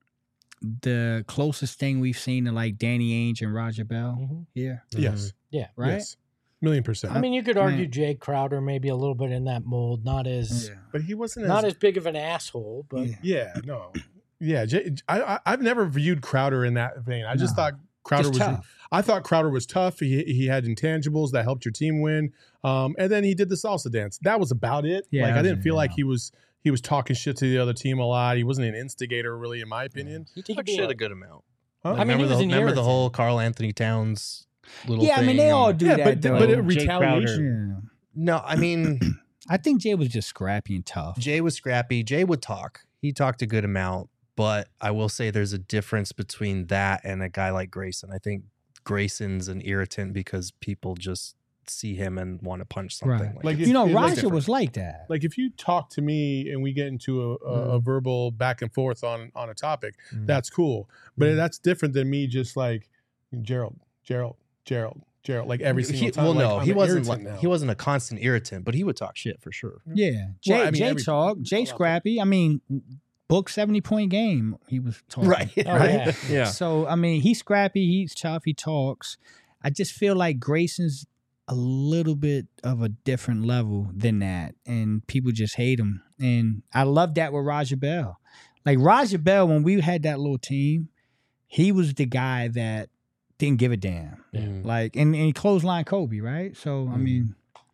the closest thing we've seen to, like, Danny Ainge and Roger Bell
Mhm.
here?
Yes.
Yeah.
Right?
Yes. Million percent.
I mean, you could argue
Man.
Jay Crowder maybe a little bit in that mold, not as
Yeah.
but he wasn't
not
as,
as big of an asshole, but
Yeah.
yeah, no. Yeah, J- I, I, I've never viewed Crowder in that vein. I just
No.
thought Crowder
Just
was
tough.
I thought Crowder was tough. He he had intangibles that helped your team win. Um, and then he did the salsa dance. That was about it.
Yeah,
like
that
I
was
didn't
it,
feel
yeah.
like he was he was talking shit to the other team a lot. He wasn't an instigator, really, in my opinion.
He
could
took
be
shit
a-
a good amount.
Huh?
Like,
I mean, he
remember
was
the,
an
remember the
irritant.
whole Carl Anthony Towns little
Yeah, I mean,
thing?
they all do
Yeah,
that,
but-
though.
but it-
Jay
retaliation.
Crowder.
No, I mean,
I think Jay was just scrappy and tough.
Jay was scrappy. Jay would talk. He talked a good amount, but I will say there's a difference between that and a guy like Grayson. I think Grayson's an irritant because people just see him and want to punch something.
Right.
Like,
Like,
it's-
if-
You know,
it's
Roger
different.
was like that.
Like if you talk to me and we get into a, a, a verbal back and forth on on a topic,
Mhm.
that's cool. But
Mhm.
that's different than me just like Gerald, Gerald, Gerald, Gerald, like every single
he,
time.
well,
like,
no,
I'm
he
an
wasn't.
irritant
Like,
now.
he wasn't a constant irritant, but he would talk shit for sure.
Yeah. Jay,
Well, I mean,
Jay
every-
talk. Jay
Well,
scrappy. I mean, book seventy point game. He was talking.
Oh, yeah.
yeah.
So, I mean, he's scrappy. He's tough. He talks. I just feel like Grayson's a little bit of a different level than that. And people just hate him. And I love that with Roger Bell. Like, Roger Bell, when we had that little team, he was the guy that didn't give a damn.
Mm.
Like, and, and he clothesline Kobe, right? So, I
Mhm.
mean,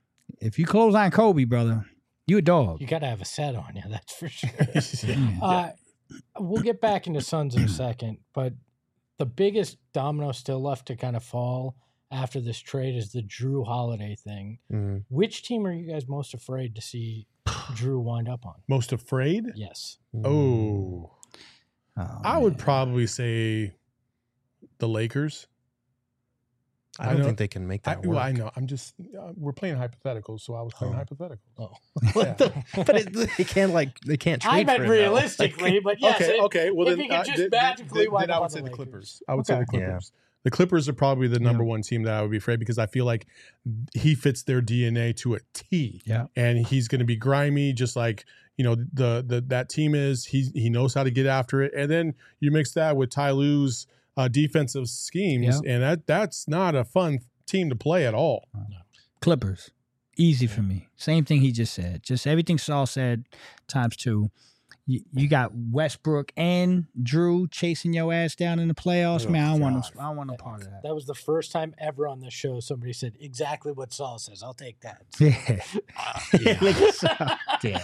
if you clothesline Kobe, brother, you a dog.
you got to have a set on you, that's for sure.
Yeah.
Uh, we'll get back into Suns in a second, but the biggest domino still left to kind of fall after this trade is the Drew Holiday thing.
Mm.
Which team are you guys most afraid to see Drew wind up on?
Most afraid?
Yes.
Oh,
Oh,
I would
man.
probably say the Lakers.
I
I
don't
know-
think they can make
I,
that work.
well, I know. I'm just uh, we're playing hypotheticals, so I was playing
Oh.
hypotheticals.
Oh.
What the- but it, they can't like they can't trade.
I meant
for him, though.
realistically, but yes.
okay,
if-
okay. Well,
if
then,
he could
uh,
just
then-
magically
then,
wind
then I
up
would
on
say
the
the
Lakers.
Clippers. I would say
Okay.
the
Yeah.
Clippers. The Clippers are probably the number
Yeah.
one team that I would be afraid because I feel like he fits their D N A to a T.
Yeah.
And he's going to be grimy, just like you know the the that team is. He he knows how to get after it, and then you mix that with Ty Lue's uh, defensive schemes, and that that's not a fun team to play at all.
Clippers. Easy for me. Same thing he just said. Just everything Saul said times two. You, you got Westbrook and Drew chasing your ass down in the playoffs.
Oh,
Man, I don't want
God.
no, I don't want no part of that.
That was the first time ever on this show somebody said exactly what Saul says. I'll take that.
Yeah.
yeah.
Look at Saul.
Damn.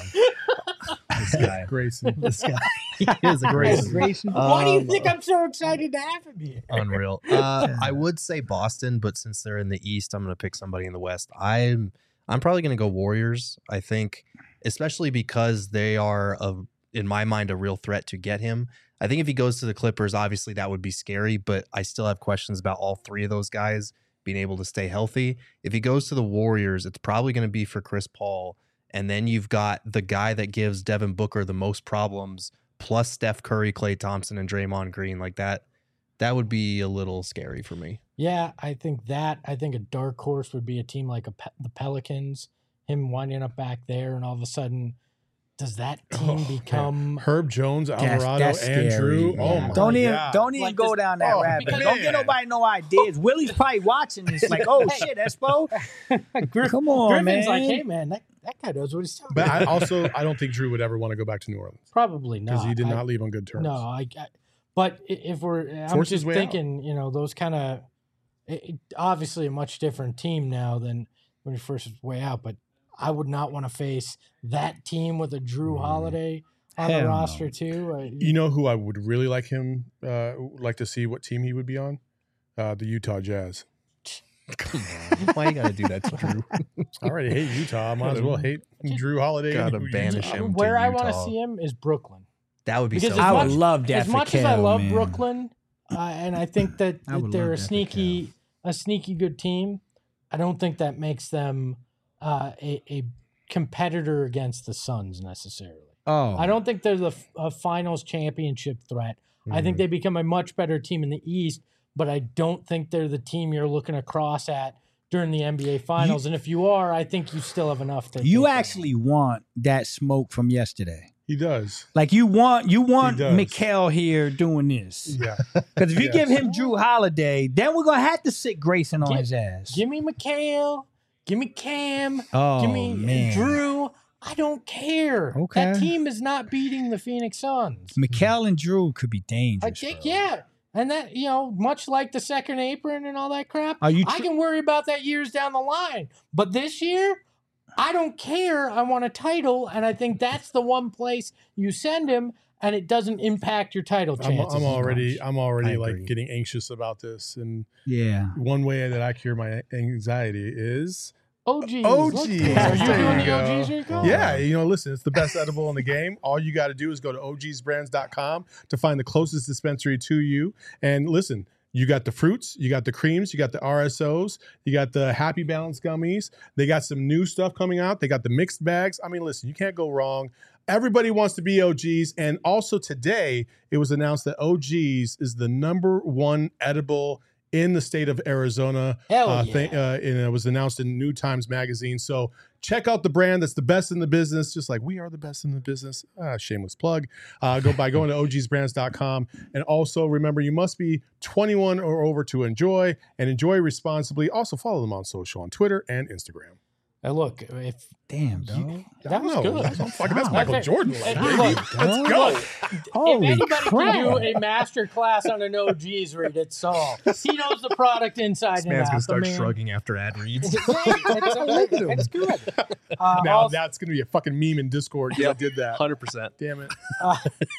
This guy.
Grayson.
This guy. He is a
Grayson.
Grayson.
Grayson.
Why do you
Um,
think I'm so excited to have him here?
Unreal. Uh, I would say Boston, but since they're in the East, I'm going to pick somebody in the West. I'm I'm probably going to go Warriors. I think, especially because they are a, in my mind, a real threat to get him. I think if he goes to the Clippers, obviously that would be scary, but I still have questions about all three of those guys being able to stay healthy. If he goes to the Warriors, it's probably going to be for Chris Paul, and then you've got the guy that gives Devin Booker the most problems, plus Steph Curry, Klay Thompson, and Draymond Green. Like that, that would be a little scary for me.
Yeah, I think that. I think a dark horse would be a team like a Pe- the Pelicans, him winding up back there, and all of a sudden, does that team
Oh, man.
become
Herb Jones,
That's-
Alvarado,
that's
and Drew.
scary.
Oh
Yeah.
my
Don't even
God.
don't even
Like
go
this-
down that
oh,
rabbit.
because-
Don't get
man.
nobody no ideas. Willie's probably watching this like, oh shit, Espo.
Griff-
Come on,
Griffin's
man.
like, hey man, that, that guy knows what he's talking
But
about.
I also I don't think Drew would ever want to go back to New Orleans
Probably not.
because he did
I-
not leave on good terms.
No, I, I. But i- if we're, I'm
Forced his
just
way
thinking, you know, those kind of, obviously a much different team now than when he first was way out. But I would not want to face that team with a Drew
Mm.
Holiday on
Hell
the
no.
roster too. Uh,
You know who I would really like him uh, like to see what team he would be on? Uh, the Utah Jazz.
Come on. Why you got to do that to Drew?
I already hate Utah. I might as well hate Drew Holiday.
Gotta
and who
banish
Utah.
him.
where
to
I want to
Utah.
see him is Brooklyn.
That would be
Because
so
as
I
much-
would love that
As
for
much as I
Kel,
love
man.
Brooklyn, uh, and I think that,
I
that
would
they're
love
a
that for
sneaky, a sneaky good team. I don't think that makes them uh, a, a competitor against the Suns necessarily.
Oh,
I don't think they're the f- a finals championship threat. I think
Mhm.
they become a much better team in the East, but I don't think they're the team you're looking across at during the N B A Finals. and if you are, I think you still have enough to.
You
take them
actually want that smoke from yesterday.
He does.
Like you want you want
does.
Mikal here doing this.
Yeah.
Because if you
Yes.
give him Drew Holiday, then we're gonna have to sit Grayson on
Give-
his ass.
on. Give me McHale. Give me Cam.
oh
give me
man,
Drew. I don't care.
Okay.
That team is not beating the Phoenix Suns.
Mikal and Drew could be
I
dangerous.
think,
bro.
yeah. And that, you know, much like the second apron and all that crap,
Are you
I
tr-
can worry about that years down the line. But this year, I don't care. I want a title. And I think that's the one place you send him and it doesn't impact your title
I'm,
chances.
I'm
as
already
much.
I'm already
I
like
agree.
getting anxious about this. And
Yeah.
one way that I cure my anxiety is
O Gs.
O
Look,
Gs.
Are you
There
doing
you
the O
go.
Gs, Rico?
yeah, you know, listen, it's the best edible in the game. All you got to do is go to O Gs brands dot com to find the closest dispensary to you. And listen, you got the fruits, you got the creams, you got the R S Os, you got the Happy Balance gummies. They got some new stuff coming out. They got the mixed bags. I mean, listen, you can't go wrong. Everybody wants to be O Gs. And also today, it was announced that O Gs is the number one edible in the state of Arizona.
Hell
uh,
yeah.
th- uh, and it was announced in New Times Magazine. So check out the brand that's the best in the business, just like we are the best in the business. Ah, shameless plug. Uh, go by going to O Gs brands dot com. And also remember, you must be twenty-one or over to enjoy, and enjoy responsibly. Also follow them on social, on Twitter and Instagram.
Now look, if
Damn, dog.
that was
I know.
good.
That's, I'm fucking, that's
Wow.
Michael
Okay.
Jordan,
Hey,
baby.
look,
Let's go.
Holy
if anybody
crap.
can do a master class on an O Gs read, it's Saul. He knows the product inside
This
and
man's
out.
gonna
The
start
man-
shrugging after ad reads.
It's, it's, it's good. Uh,
Now
also,
that's going to be a fucking meme in Discord because
Yep.
I did that.
Hundred percent.
Damn it.
uh,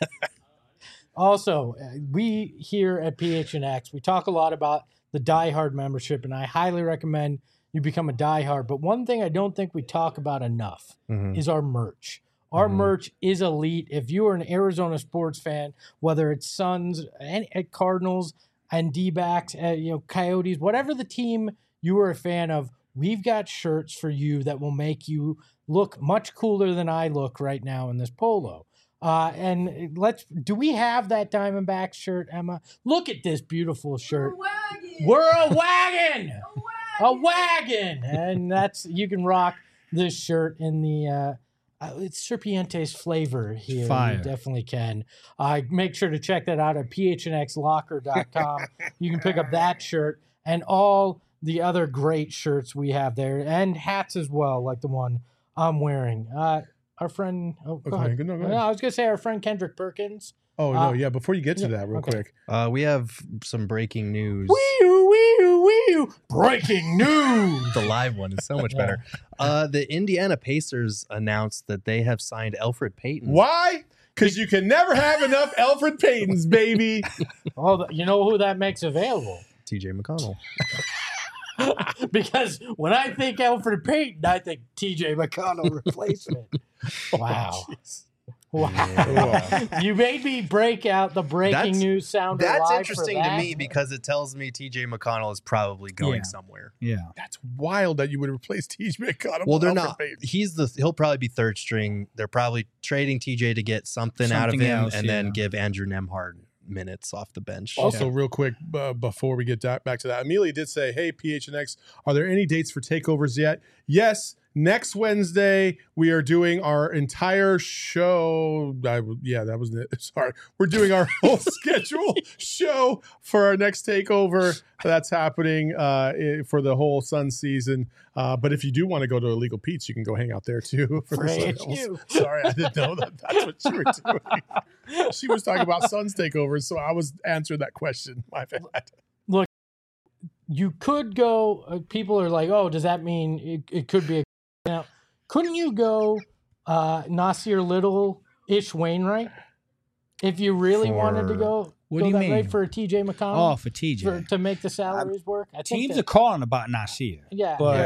also, uh, we here at P H N X, we talk a lot about the Die Hard membership, and I highly recommend you become a Die Hard. But one thing I don't think we talk about enough
Mhm.
is our merch. Our
Mhm.
merch is elite. If you are an Arizona sports fan, whether it's Suns, and, and Cardinals, and D-backs, uh, you know, Coyotes, whatever the team you are a fan of, we've got shirts for you that will make you look much cooler than I look right now in this polo. Uh, and let's, do we have that Diamondback shirt, Emma? Look at this beautiful shirt. We're a wagon. A wagon. And that's, you can rock this shirt in the, uh, uh, it's Serpiente's flavor here.
Fire.
You definitely can. Uh, make sure to check that out at P H N X locker dot com. You can pick up that shirt and all the other great shirts we have there, and hats as well, like the one I'm wearing. Uh, our friend, oh, go
Okay,
ahead.
good, no, go
No,
ahead.
I was going to say our friend Kendrick Perkins.
Oh,
Uh,
no, yeah. Before you get to
yeah,
that, real
okay.
quick.
Uh, we have some breaking news.
Wee-oo, wee-oo, wee-oo. Breaking news.
The live one is so much
Yeah.
better. Uh, the Indiana Pacers announced that they have signed Elfrid Payton.
Why? Because you can never have enough Alfred Paytons, baby.
Oh, the- you know who that makes available?
T J McConnell.
Because when I think Alfred Payton, I think T J McConnell replacement. Wow. Wow. You made me break out the breaking
That's-
news sounder
That's
live for
interesting to
that.
me because it tells me T J McConnell is probably going
Yeah.
somewhere.
Yeah.
That's wild that you would replace T J McConnell.
Well,
with
they're
Alfred
not.
Payton.
He's the. He'll probably be third string. They're probably trading T J to get something, out of
Something
him,
else,
and then
yeah.
give Andrew Nemhard minutes off the bench.
Also, real quick, uh, before we get da- back to that, Amelia did say, hey, P H N X, are there any dates for takeovers yet? Yes. Next Wednesday, we are doing our entire show. I, w- yeah, that was it. Sorry. We're doing our whole schedule show for our next takeover. That's happening uh, i- for the whole Sun season. Uh, but if you do want to go to Illegal Pete's, you can go hang out there too. For the
Praise
sales.
you.
Sorry, I didn't know that that's what you were doing. She was talking about Suns takeovers, so I was answering that question. My bad.
You could go, uh, people are like, oh, does that mean it, it could be a. Now, couldn't you go uh, Nasir Little ish Wainwright if you really wanted to
For-
go?
What
go
do you
that
mean?
rate for a T J McConnell?
Oh, for T J.
for, to make the salaries work? I think
Teams
that-
are calling about Nasir.
Yeah.
But
yeah.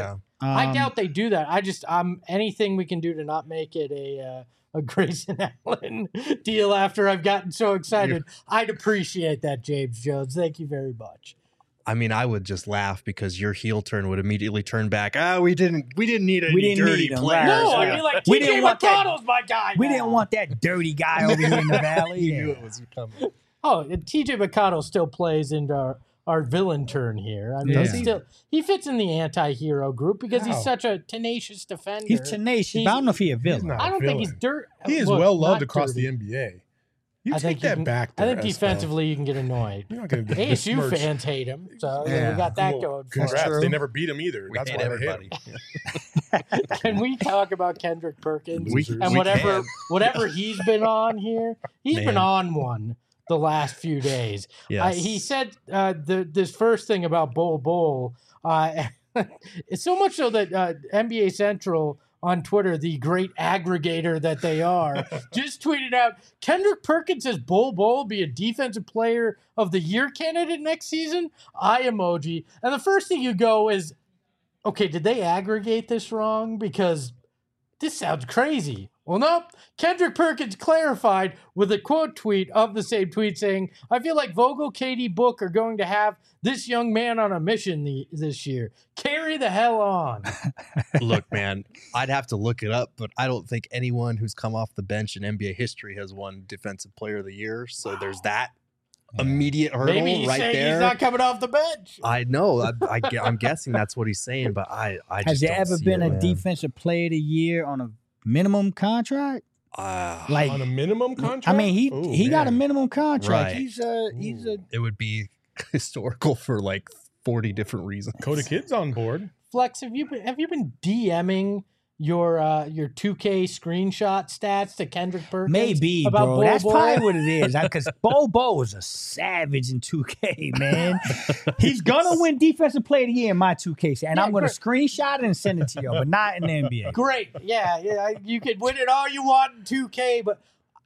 I
Um,
doubt they do that. I just um anything we can do to not make it a uh, a Grayson Allen deal after I've gotten so excited. I'd appreciate that, James Jones. Thank you very much.
I mean, I would just laugh because your heel turn would immediately turn back. Ah, we didn't, we didn't need any
We didn't
dirty
need 'em,
players.
right.
No,
Yeah.
I'd be like,
We
T J
didn't want that-
McConnell's my guy.
We
now.
didn't want that dirty guy over here in the valley.
You
Yeah.
knew it was coming.
Oh, and T J McConnell still plays into our, our villain turn here. I mean,
Yeah.
he's still he fits in the anti-hero group because
How?
he's such a tenacious defender.
He's tenacious,
He's-
but I don't know if he's a villain.
not.
I don't think he's
villain.
dirt.
He is
look,
well loved
not
across
dirty.
the N B A. You
I
take
think you
that
can-
back.
I
There,
think
Espo.
defensively you can get annoyed.
You're not going to
A S U fans hate him, so you know,
Yeah.
we got that
Well,
going for
Congrats.
us.
true.
They never beat him either.
We
That's
hate
why
everybody.
they hate him.
Can we talk about Kendrick Perkins
We-
and
we
whatever
can.
whatever he's been on here? He's been
Man.
on one the last few days. Uh,
Yes.
he said uh, the this first thing about Bol Bol. Uh, it's so much so that uh, N B A Central on Twitter, the great aggregator that they are, just tweeted out Kendrick Perkins says Bol Bol be a defensive player of the year candidate next season. Eye emoji. And the first thing you go is, okay, did they aggregate this wrong? Because this sounds crazy. Well, nope. Kendrick Perkins clarified with a quote tweet of the same tweet saying, I feel like Vogel, K D, Book are going to have this young man on a mission the, this year. Carry the hell on.
Look, man, I'd have to look it up, but I don't think anyone who's come off the bench in N B A history has won Defensive Player of the Year. So there's that immediate hurdle
Maybe he's
right
saying
there.
he's not coming off the bench.
I know. I, I, gue- I'm guessing that's what he's saying, but I, I just
Has there
don't
ever
see
been
it,
a
man.
defensive player of the year on a minimum contract?
Ah,
Like,
On a minimum contract?
I mean, he
Ooh,
he got a
man.
minimum contract.
Right.
He's a he's a
it would be historical for like forty different reasons.
Coda Kid's on board.
Flex, have you been, have you been DMing your uh, your two K screenshot stats to Kendrick Perkins?
maybe,
about
bro.
Bol
That's
Bol?
probably what it is. Because Bo Bo was a savage in two K, man. He's gonna win defensive player of the year in my two K, and
Yeah,
I'm gonna
great.
screenshot it and send it to you, but not in the N B A.
Great. Yeah, yeah. You can win it all you want in two K, but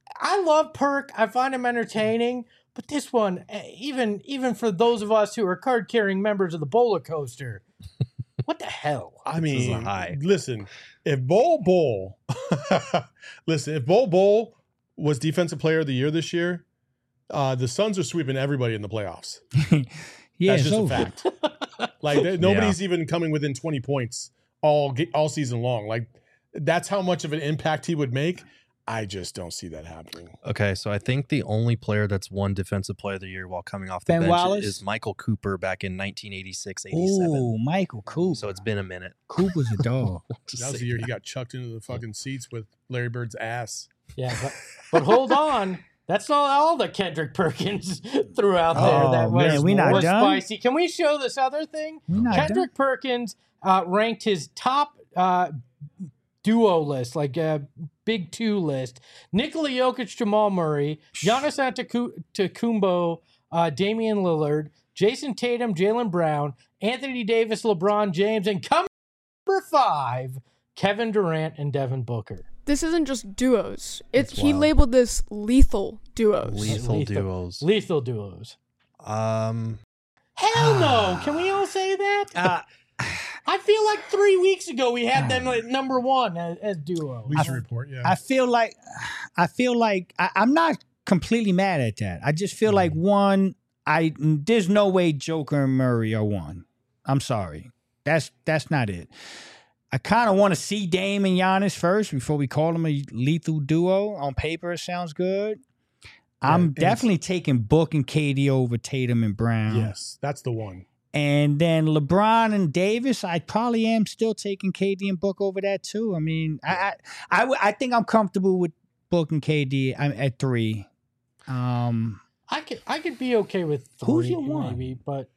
I love Perk. I find him entertaining. But this one, eh, even even for those of us who are card carrying members of the Bowler Coaster, what the hell?
I
This is a
mean,
high.
listen, if Bol Bol, listen, if Bol Bol was Defensive Player of the Year this year, uh, the Suns are sweeping everybody in the playoffs.
Yeah,
That's
it's
just a
over.
fact. Like there- nobody's even coming within twenty points all ge- all season long. Like that's how much of an impact he would make. I just don't see that happening.
Okay, so I think the only player that's won Defensive Player of the Year while coming off the
Ben
bench
Wallace?
is Michael Cooper back in nineteen eighty-six eighty-seven.
Ooh, Michael Cooper.
So it's been a minute.
Cooper's a dog.
Just
That was
say
the year he
that.
got chucked into the fucking seats with Larry Bird's ass.
Yeah, but, but hold on. That's not all that Kendrick Perkins threw out there.
Oh,
that was,
man, we not
was
done?
spicy. Can we show this other thing?
We not
Kendrick Perkins uh, ranked his top uh, duo list, like a big two list. Nikola Jokic, Jamal Murray, Giannis Antetokounmpo, uh, Damian Lillard, Jason Tatum, Jaylen Brown, Anthony Davis, LeBron James, and come number five, Kevin Durant and Devin Booker.
This isn't just duos. It's
That's
he
wild.
labeled this lethal duos.
Lethal,
Lethal.
duos.
Lethal duos.
Um,
Hell no! Can we all say that?
Uh,
I feel like three weeks ago we had them at number one as, as duo.
Bleacher Report, yeah.
I feel like I feel like I, I'm not completely mad at that. I just feel like one, I there's no way Joker and Murray are one. I'm sorry. That's that's not it. I kind of want to see Dame and Giannis first before we call them a lethal duo. On paper, it sounds good. I'm
and it's-
definitely taking Book and K D over Tatum and Brown.
yes, that's the one.
And then LeBron and Davis, I probably am still taking K D and Book over that too. I mean, I I, I, w- I think I'm comfortable with Book and K D I'm at three. Um,
I could I could be okay with three,
Who's your one?
maybe, but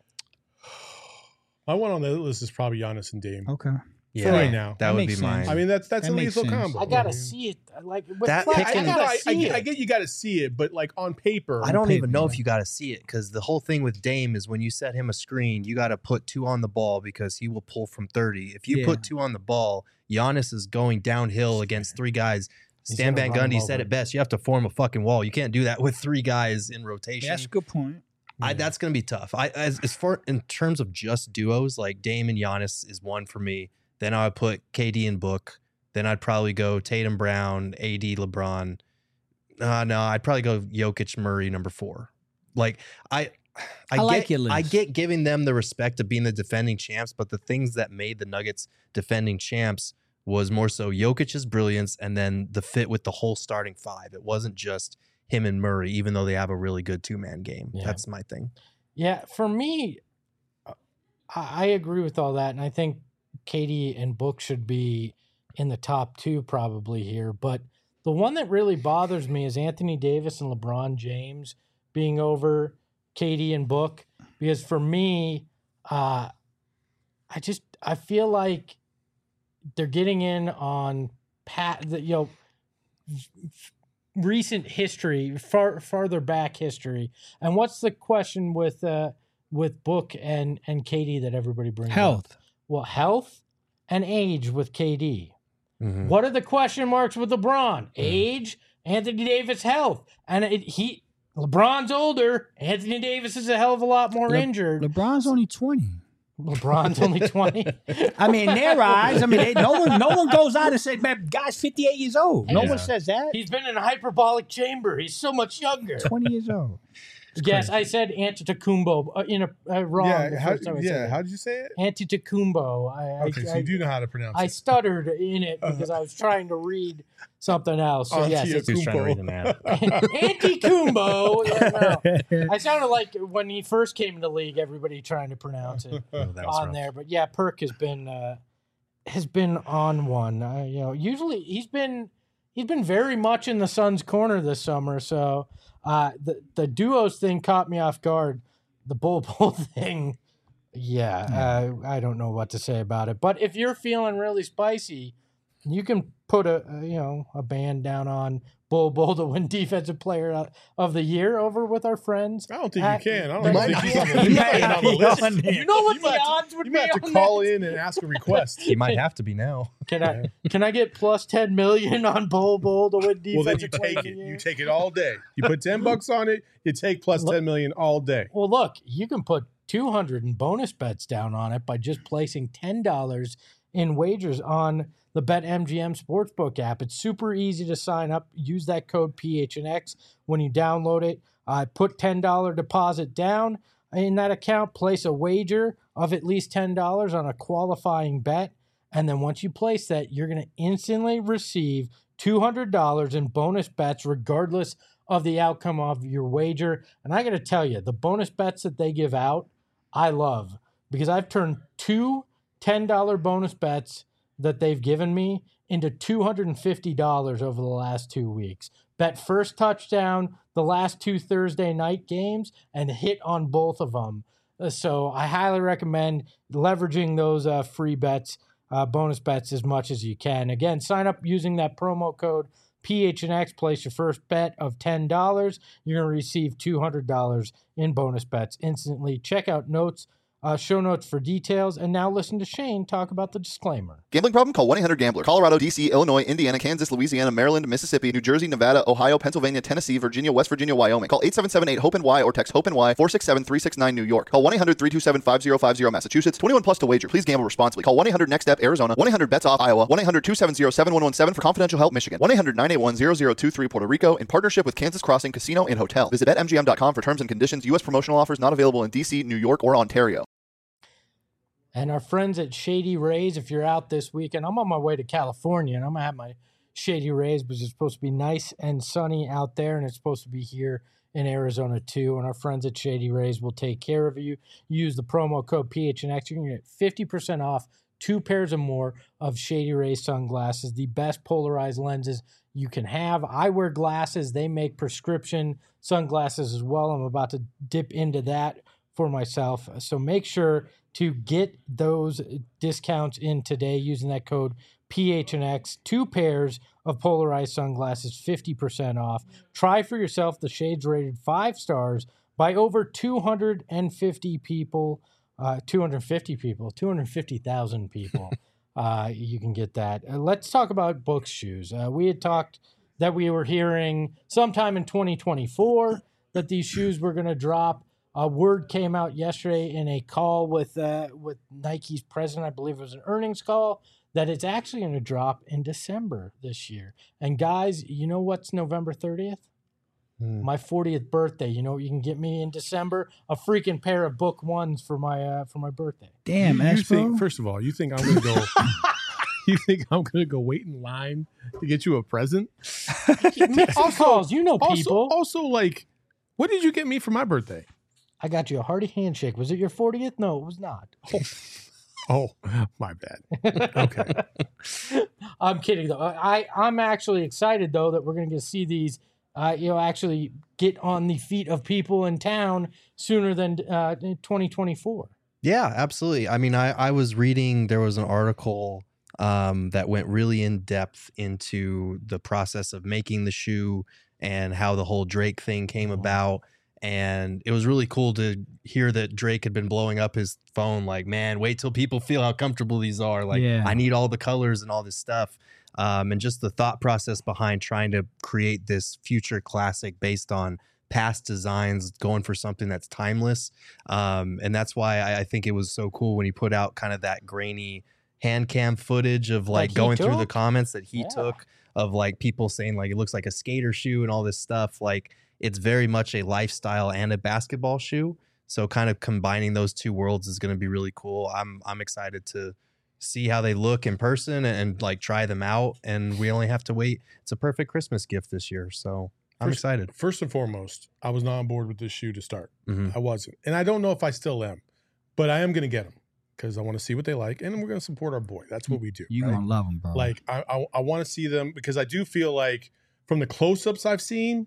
My one on the list is probably Giannis and Dame.
okay.
yeah,
right now.
that,
That
would
makes
be mine.
sense.
I mean, that's that's
That
a
makes
lethal
sense.
combo.
I gotta
mean,
see it. Like with
That
Flex,
pick
I
and-
gotta
no, I,
see
I, get,
it.
I get you got to see it, but like on paper,
I don't
paper,
even know if
yeah.
you got to see it because the whole thing with Dame is when you set him a screen, you got to put two on the ball because he will pull from thirty. If you
Yeah.
put two on the ball, Giannis is going downhill against three guys.
He's
Stan
gonna
Van
run him
Gundy said
over.
it best. You have to form a fucking wall. You can't do that with three guys in rotation.
That's a good point.
I, that's going to be tough. I as, as far in terms of just duos, like Dame and Giannis is one for me. Then I would put K D and Book. Then I'd probably go Tatum, Brown, A D, LeBron. Uh, no, I'd probably go Jokic, Murray, number four. Like I, I,
I
get,
like your list.
I get giving them the respect of being the defending champs, but the things that made the Nuggets defending champs was more so Jokic's brilliance and then the fit with the whole starting five. It wasn't just him and Murray, even though they have a really good two-man game.
Yeah.
That's my thing.
Yeah, for me, I, I agree with all that, and I think K D and Book should be in the top two probably here. But the one that really bothers me is Anthony Davis and LeBron James being over K D and Book, because for me, uh, I just I feel like they're getting in on pat the you know recent history, far farther back history. And what's the question with uh with Book and and K D that everybody brings
Health.
up? Well, health and age with K D.
Mhm.
What are the question marks with LeBron? Age, Anthony Davis, health, and it, he LeBron's older. Anthony Davis is a hell of a lot more
Le-
injured.
LeBron's only twenty.
LeBron's only twenty.
I mean, in their eyes, I mean, they, no one, no one goes out and says, "Man, guy's fifty-eight years old." No
Yeah.
one says that.
He's been in a hyperbolic chamber. He's so much younger.
twenty years old.
Yes, I said Antetokounmpo uh, in a uh, wrong.
Yeah,
the
how,
first time I
yeah.
said
How
it.
did you say it?
Antetokounmpo. I,
Okay,
I,
so
I,
you do know how to pronounce
I
it.
stuttered in it because I was trying to read something else. So yes, it's
He was trying to read the map.
Antetokounmpo. Yeah, no. I sounded like when he first came into the league, everybody trying to pronounce it
Oh, that was
on
rough.
there. But yeah, Perk has been uh, has been on one. Uh, you know, usually he's been he's been very much in the Suns' corner this summer. So uh, the the duos thing caught me off guard. The Bull Bull thing, yeah, uh, I don't know what to say about it. But if you're feeling really spicy, you can put a, a you know a band down on Bull Bull to win Defensive Player of the Year over with our friends.
I don't think
at-
you can. I don't
You
even
might
think
not
he's
be
on the,
able to.
he's not even on the list.
You know what
You
the
might have to-
odds would
You
be
might have to
on
call
that?
in and ask a request.
He might have to be now.
Can I can I get plus ten million on Bull Bull to win
Well, then you
Defensive Player
take
of the
it.
Year?
You take it all day. You put ten bucks on it. You take plus
Look-
ten million all day.
Well, look, you can put two hundred in bonus bets down on it by just placing ten dollars in wagers on the BetMGM Sportsbook app. It's super easy to sign up. Use that code P H N X when you download it. Uh, put ten dollars deposit down in that account. Place a wager of at least ten dollars on a qualifying bet. And then once you place that, you're going to instantly receive two hundred dollars in bonus bets regardless of the outcome of your wager. And I got to tell you, the bonus bets that they give out, I love, because I've turned two ten dollars bonus bets that they've given me into two hundred fifty dollars over the last two weeks. Bet first touchdown the last two Thursday night games and hit on both of them. Uh, So I highly recommend leveraging those uh, free bets, uh, bonus bets as much as you can. Again, sign up using that promo code P H N X, place your first bet of ten dollars. You're going to receive two hundred dollars in bonus bets instantly. Check out notes, uh, show notes for details. And now listen to Shane talk about the disclaimer.
Gambling problem? Call one eight hundred gambler. Colorado, D C, Illinois, Indiana, Kansas, Louisiana, Maryland, Mississippi, New Jersey, Nevada, Ohio, Pennsylvania, Tennessee, Virginia, West Virginia, Wyoming. Call eight seven seven eight hope N Y or text hope N Y four six seven three six nine New York. Call one eight hundred three two seven five zero five zero Massachusetts. twenty-one plus to wager. Please gamble responsibly. Call one eight hundred next step Arizona. one eight hundred bets off Iowa. one eight hundred two seven zero seven one one seven for confidential help Michigan. one eight hundred nine eight one zero zero two three Puerto Rico in partnership with Kansas Crossing Casino and Hotel. Visit bet M G M dot com for terms and conditions. U S promotional offers not available in D C, New York, or Ontario.
And our friends at Shady Rays, if you're out this weekend, I'm on my way to California, and I'm going to have my Shady Rays, because it's supposed to be nice and sunny out there, and it's supposed to be here in Arizona too. And our friends at Shady Rays will take care of you. Use the promo code P H N X. You're going to get fifty percent off two pairs or more of Shady Rays sunglasses, the best polarized lenses you can have. I wear glasses. They make prescription sunglasses as well. I'm about to dip into that for myself. So make sure to get those discounts in today using that code P H N X. Two pairs of polarized sunglasses, fifty percent off. Try for yourself. The shades rated five stars by over two hundred fifty people. Uh, two hundred fifty people, two hundred fifty thousand people. uh, you can get that. Uh, let's talk about Book's shoes. Uh, we had talked that we were hearing sometime in twenty twenty-four that these shoes were going to drop. a word came out yesterday in a call with uh, with Nike's president. I believe it was an earnings call, that it's actually going to drop in December this year. And guys, you know what's November thirtieth?
Hmm.
My fortieth birthday. You know what you can get me in December? A freaking pair of Book Ones for my uh, for my birthday.
Damn,
you, you
Expo.
think first of all, you think I'm gonna go? You think I'm gonna go wait in line to get you a present?
Make some
Also-
calls. You know
Also,
people.
also, like, what did you get me for my birthday?
I got you a hearty handshake. Was it your fortieth? No, it was not.
Oh, my bad. Okay.
I'm kidding though. I I'm actually excited though that we're going to see these, uh, you know, actually get on the feet of people in town sooner than uh, twenty twenty-four.
Yeah, absolutely. I mean, I, I was reading, there was an article um, that went really in depth into the process of making the shoe and how the whole Drake thing came about. And it was really cool to hear that Drake had been blowing up his phone like, man, wait till people feel how comfortable these are. Like,
Yeah.
I need all the colors and all this stuff. Um, and just the thought process behind trying to create this future classic based on past designs, going for something that's timeless. Um, and that's why I, I think it was so cool when he put out kind of that grainy hand cam footage of like
he
going through the
took?
comments that he
Yeah.
took of like people saying like it looks like a skater shoe and all this stuff. Like it's very much a lifestyle and a basketball shoe. So kind of combining those two worlds is going to be really cool. I'm I'm excited to see how they look in person and, and like try them out. And we only have to wait. It's a perfect Christmas gift this year. So I'm
First-
excited.
First and foremost, I was not on board with this shoe to start.
Mhm.
I wasn't. And I don't know if I still am, but I am going to get them because I want to see what they like. And we're going to support our boy. That's what we do.
You
right?
gonna love them, bro.
Like, I, I, I want to see them because I do feel like from the close ups I've seen,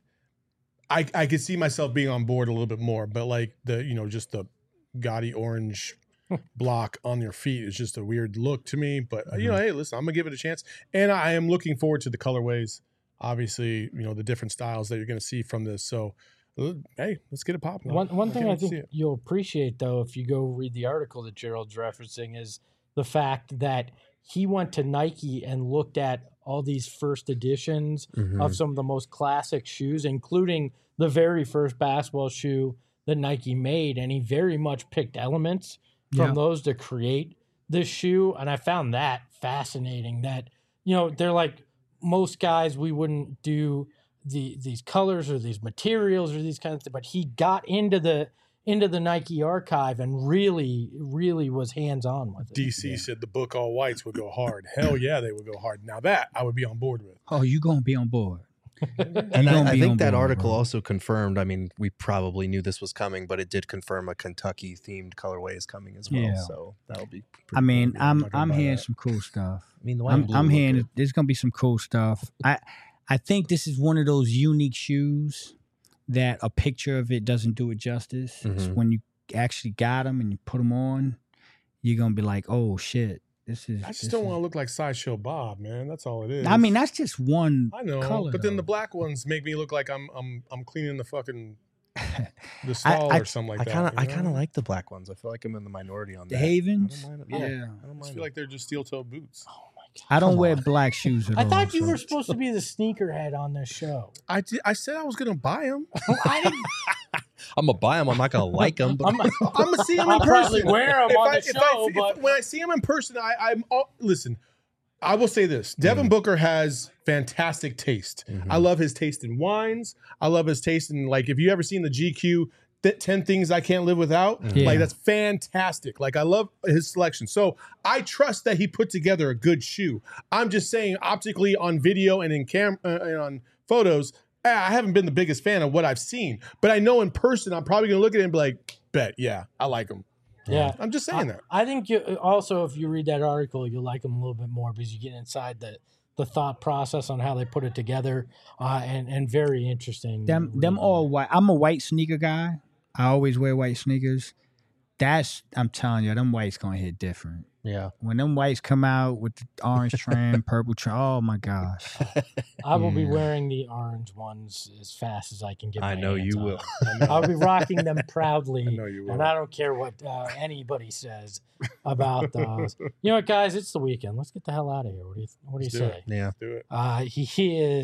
I, I could see myself being on board a little bit more. But like the, you know, just the gaudy orange block on your feet is just a weird look to me. But, uh, you know, hey, listen, I'm going to give it a chance. And I am looking forward to the colorways. Obviously, you know, the different styles that you're going to see from this. So, uh, hey, let's get it popping.
One one thing
can't
I
wait to see
think
it.
you'll appreciate though, if you go read the article that Gerald's referencing, is the fact that he went to Nike and looked at all these first editions
Mhm.
of some of the most classic shoes, including the very first basketball shoe that Nike made, and he very much picked elements from
Yeah.
those to create this shoe. And I found that fascinating. That, you know, they're like, most guys, we wouldn't do the these colors or these materials or these kinds of things, but he got into the into the Nike archive and really, really was hands on with it.
D C said the book All Whites would go hard. Hell yeah, they would go hard. Now that I would be on board with.
oh, you gonna be on board.
And
You gonna
I, I
be
think
on
that
board,
article
bro.
also confirmed, I mean, we probably knew this was coming, but it did confirm a Kentucky themed colorway is coming as well.
Yeah.
So that'll be pretty
I mean,
cool.
I'm
not gonna
I'm
buy
hearing
that.
some cool stuff.
I mean, the white and
I'm
blue
I'm
look
hearing
good.
there's gonna be some cool stuff. I I think this is one of those unique shoes that a picture of it doesn't do it justice. It's
Mhm.
when you actually got them and you put them on, you're gonna be like, oh shit, this is.
I just
this
don't
is-
want to look like Sideshow Bob, man. That's all it is.
I mean, that's just one.
I know,
color,
but then
though.
the black ones make me look like I'm I'm I'm cleaning the fucking the
I-
stall
I-
or something like
I
that.
kind of,
you
I
know?
kind of like the black ones. I feel like I'm in the minority on
The
that.
Havens.
I don't mind
Yeah.
them. Yeah, I
I
don't
just
mind
feel
them.
like they're just steel toe boots.
Oh my God.
I don't
Come
wear
on.
black shoes at
I
all.
thought you
so-
were supposed to be the sneakerhead on this show.
I, di- I said I was gonna buy them.
I didn't,
I'm gonna buy them. I'm not gonna like them, but
I'm,
I'm gonna see them
I'll
in
probably
person.
wear 'em
If
on
I-
the
if I-
show,
if-
but-
when I see them in person, I, I'm all, listen. I will say this: Devin
Mhm.
Booker has fantastic taste.
Mhm.
I love his taste in wines. I love his taste in, like, if you ever seen the G Q th- ten Things I Can't Live Without,
Yeah.
like, that's fantastic. Like, I love his selection. So I trust that he put together a good shoe. I'm just saying, optically on video and in cam uh, and on photos, eh, I haven't been the biggest fan of what I've seen. But I know in person, I'm probably gonna look at it and be like, bet, yeah, I like him.
yeah.
I'm just saying that.
I think you also, if you read that article, you'll like them a little bit more because you get inside the, the thought process on how they put it together, uh, and and very interesting.
Them them
reading.
all white. I'm a white sneaker guy. I always wear white sneakers. That's I'm telling you, them whites gonna hit different.
yeah.
When them whites come out with the orange trim, purple trim, oh my gosh.
I will be
Yeah.
wearing the orange ones as fast as I can get.
I
my
know
hands
you
on
will.
them. I'll be rocking them proudly.
I know you will.
And I don't care what uh, anybody says about those. You know what, guys? It's the weekend. Let's get the hell out of here. What do you What do you
Let's do
say?
Yeah.
Do it.
Uh, he, he is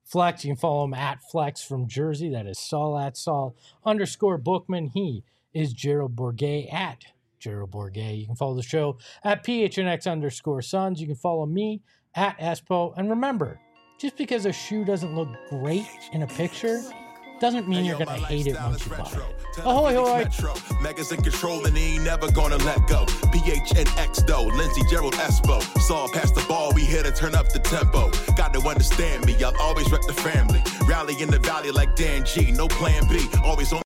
Flex, you can follow him at Flex from Jersey. That is Saul at Saul underscore Bookman. He is Gerald Bourget at Gerald Bourget. You can follow the show at P H N X underscore Sons. You can follow me at Espo. And remember, just because a shoe doesn't look great in a picture doesn't mean you're gonna hate it once you buy it. Ahoy, hoy!
Megas in control and he ain't never gonna let go. P H N X though, Lindsey, Gerald, Espo. Saw past the ball, we here to turn up the tempo. Got to understand me, I'll always rep the family. Rally in the valley like Dan G, no plan B, always on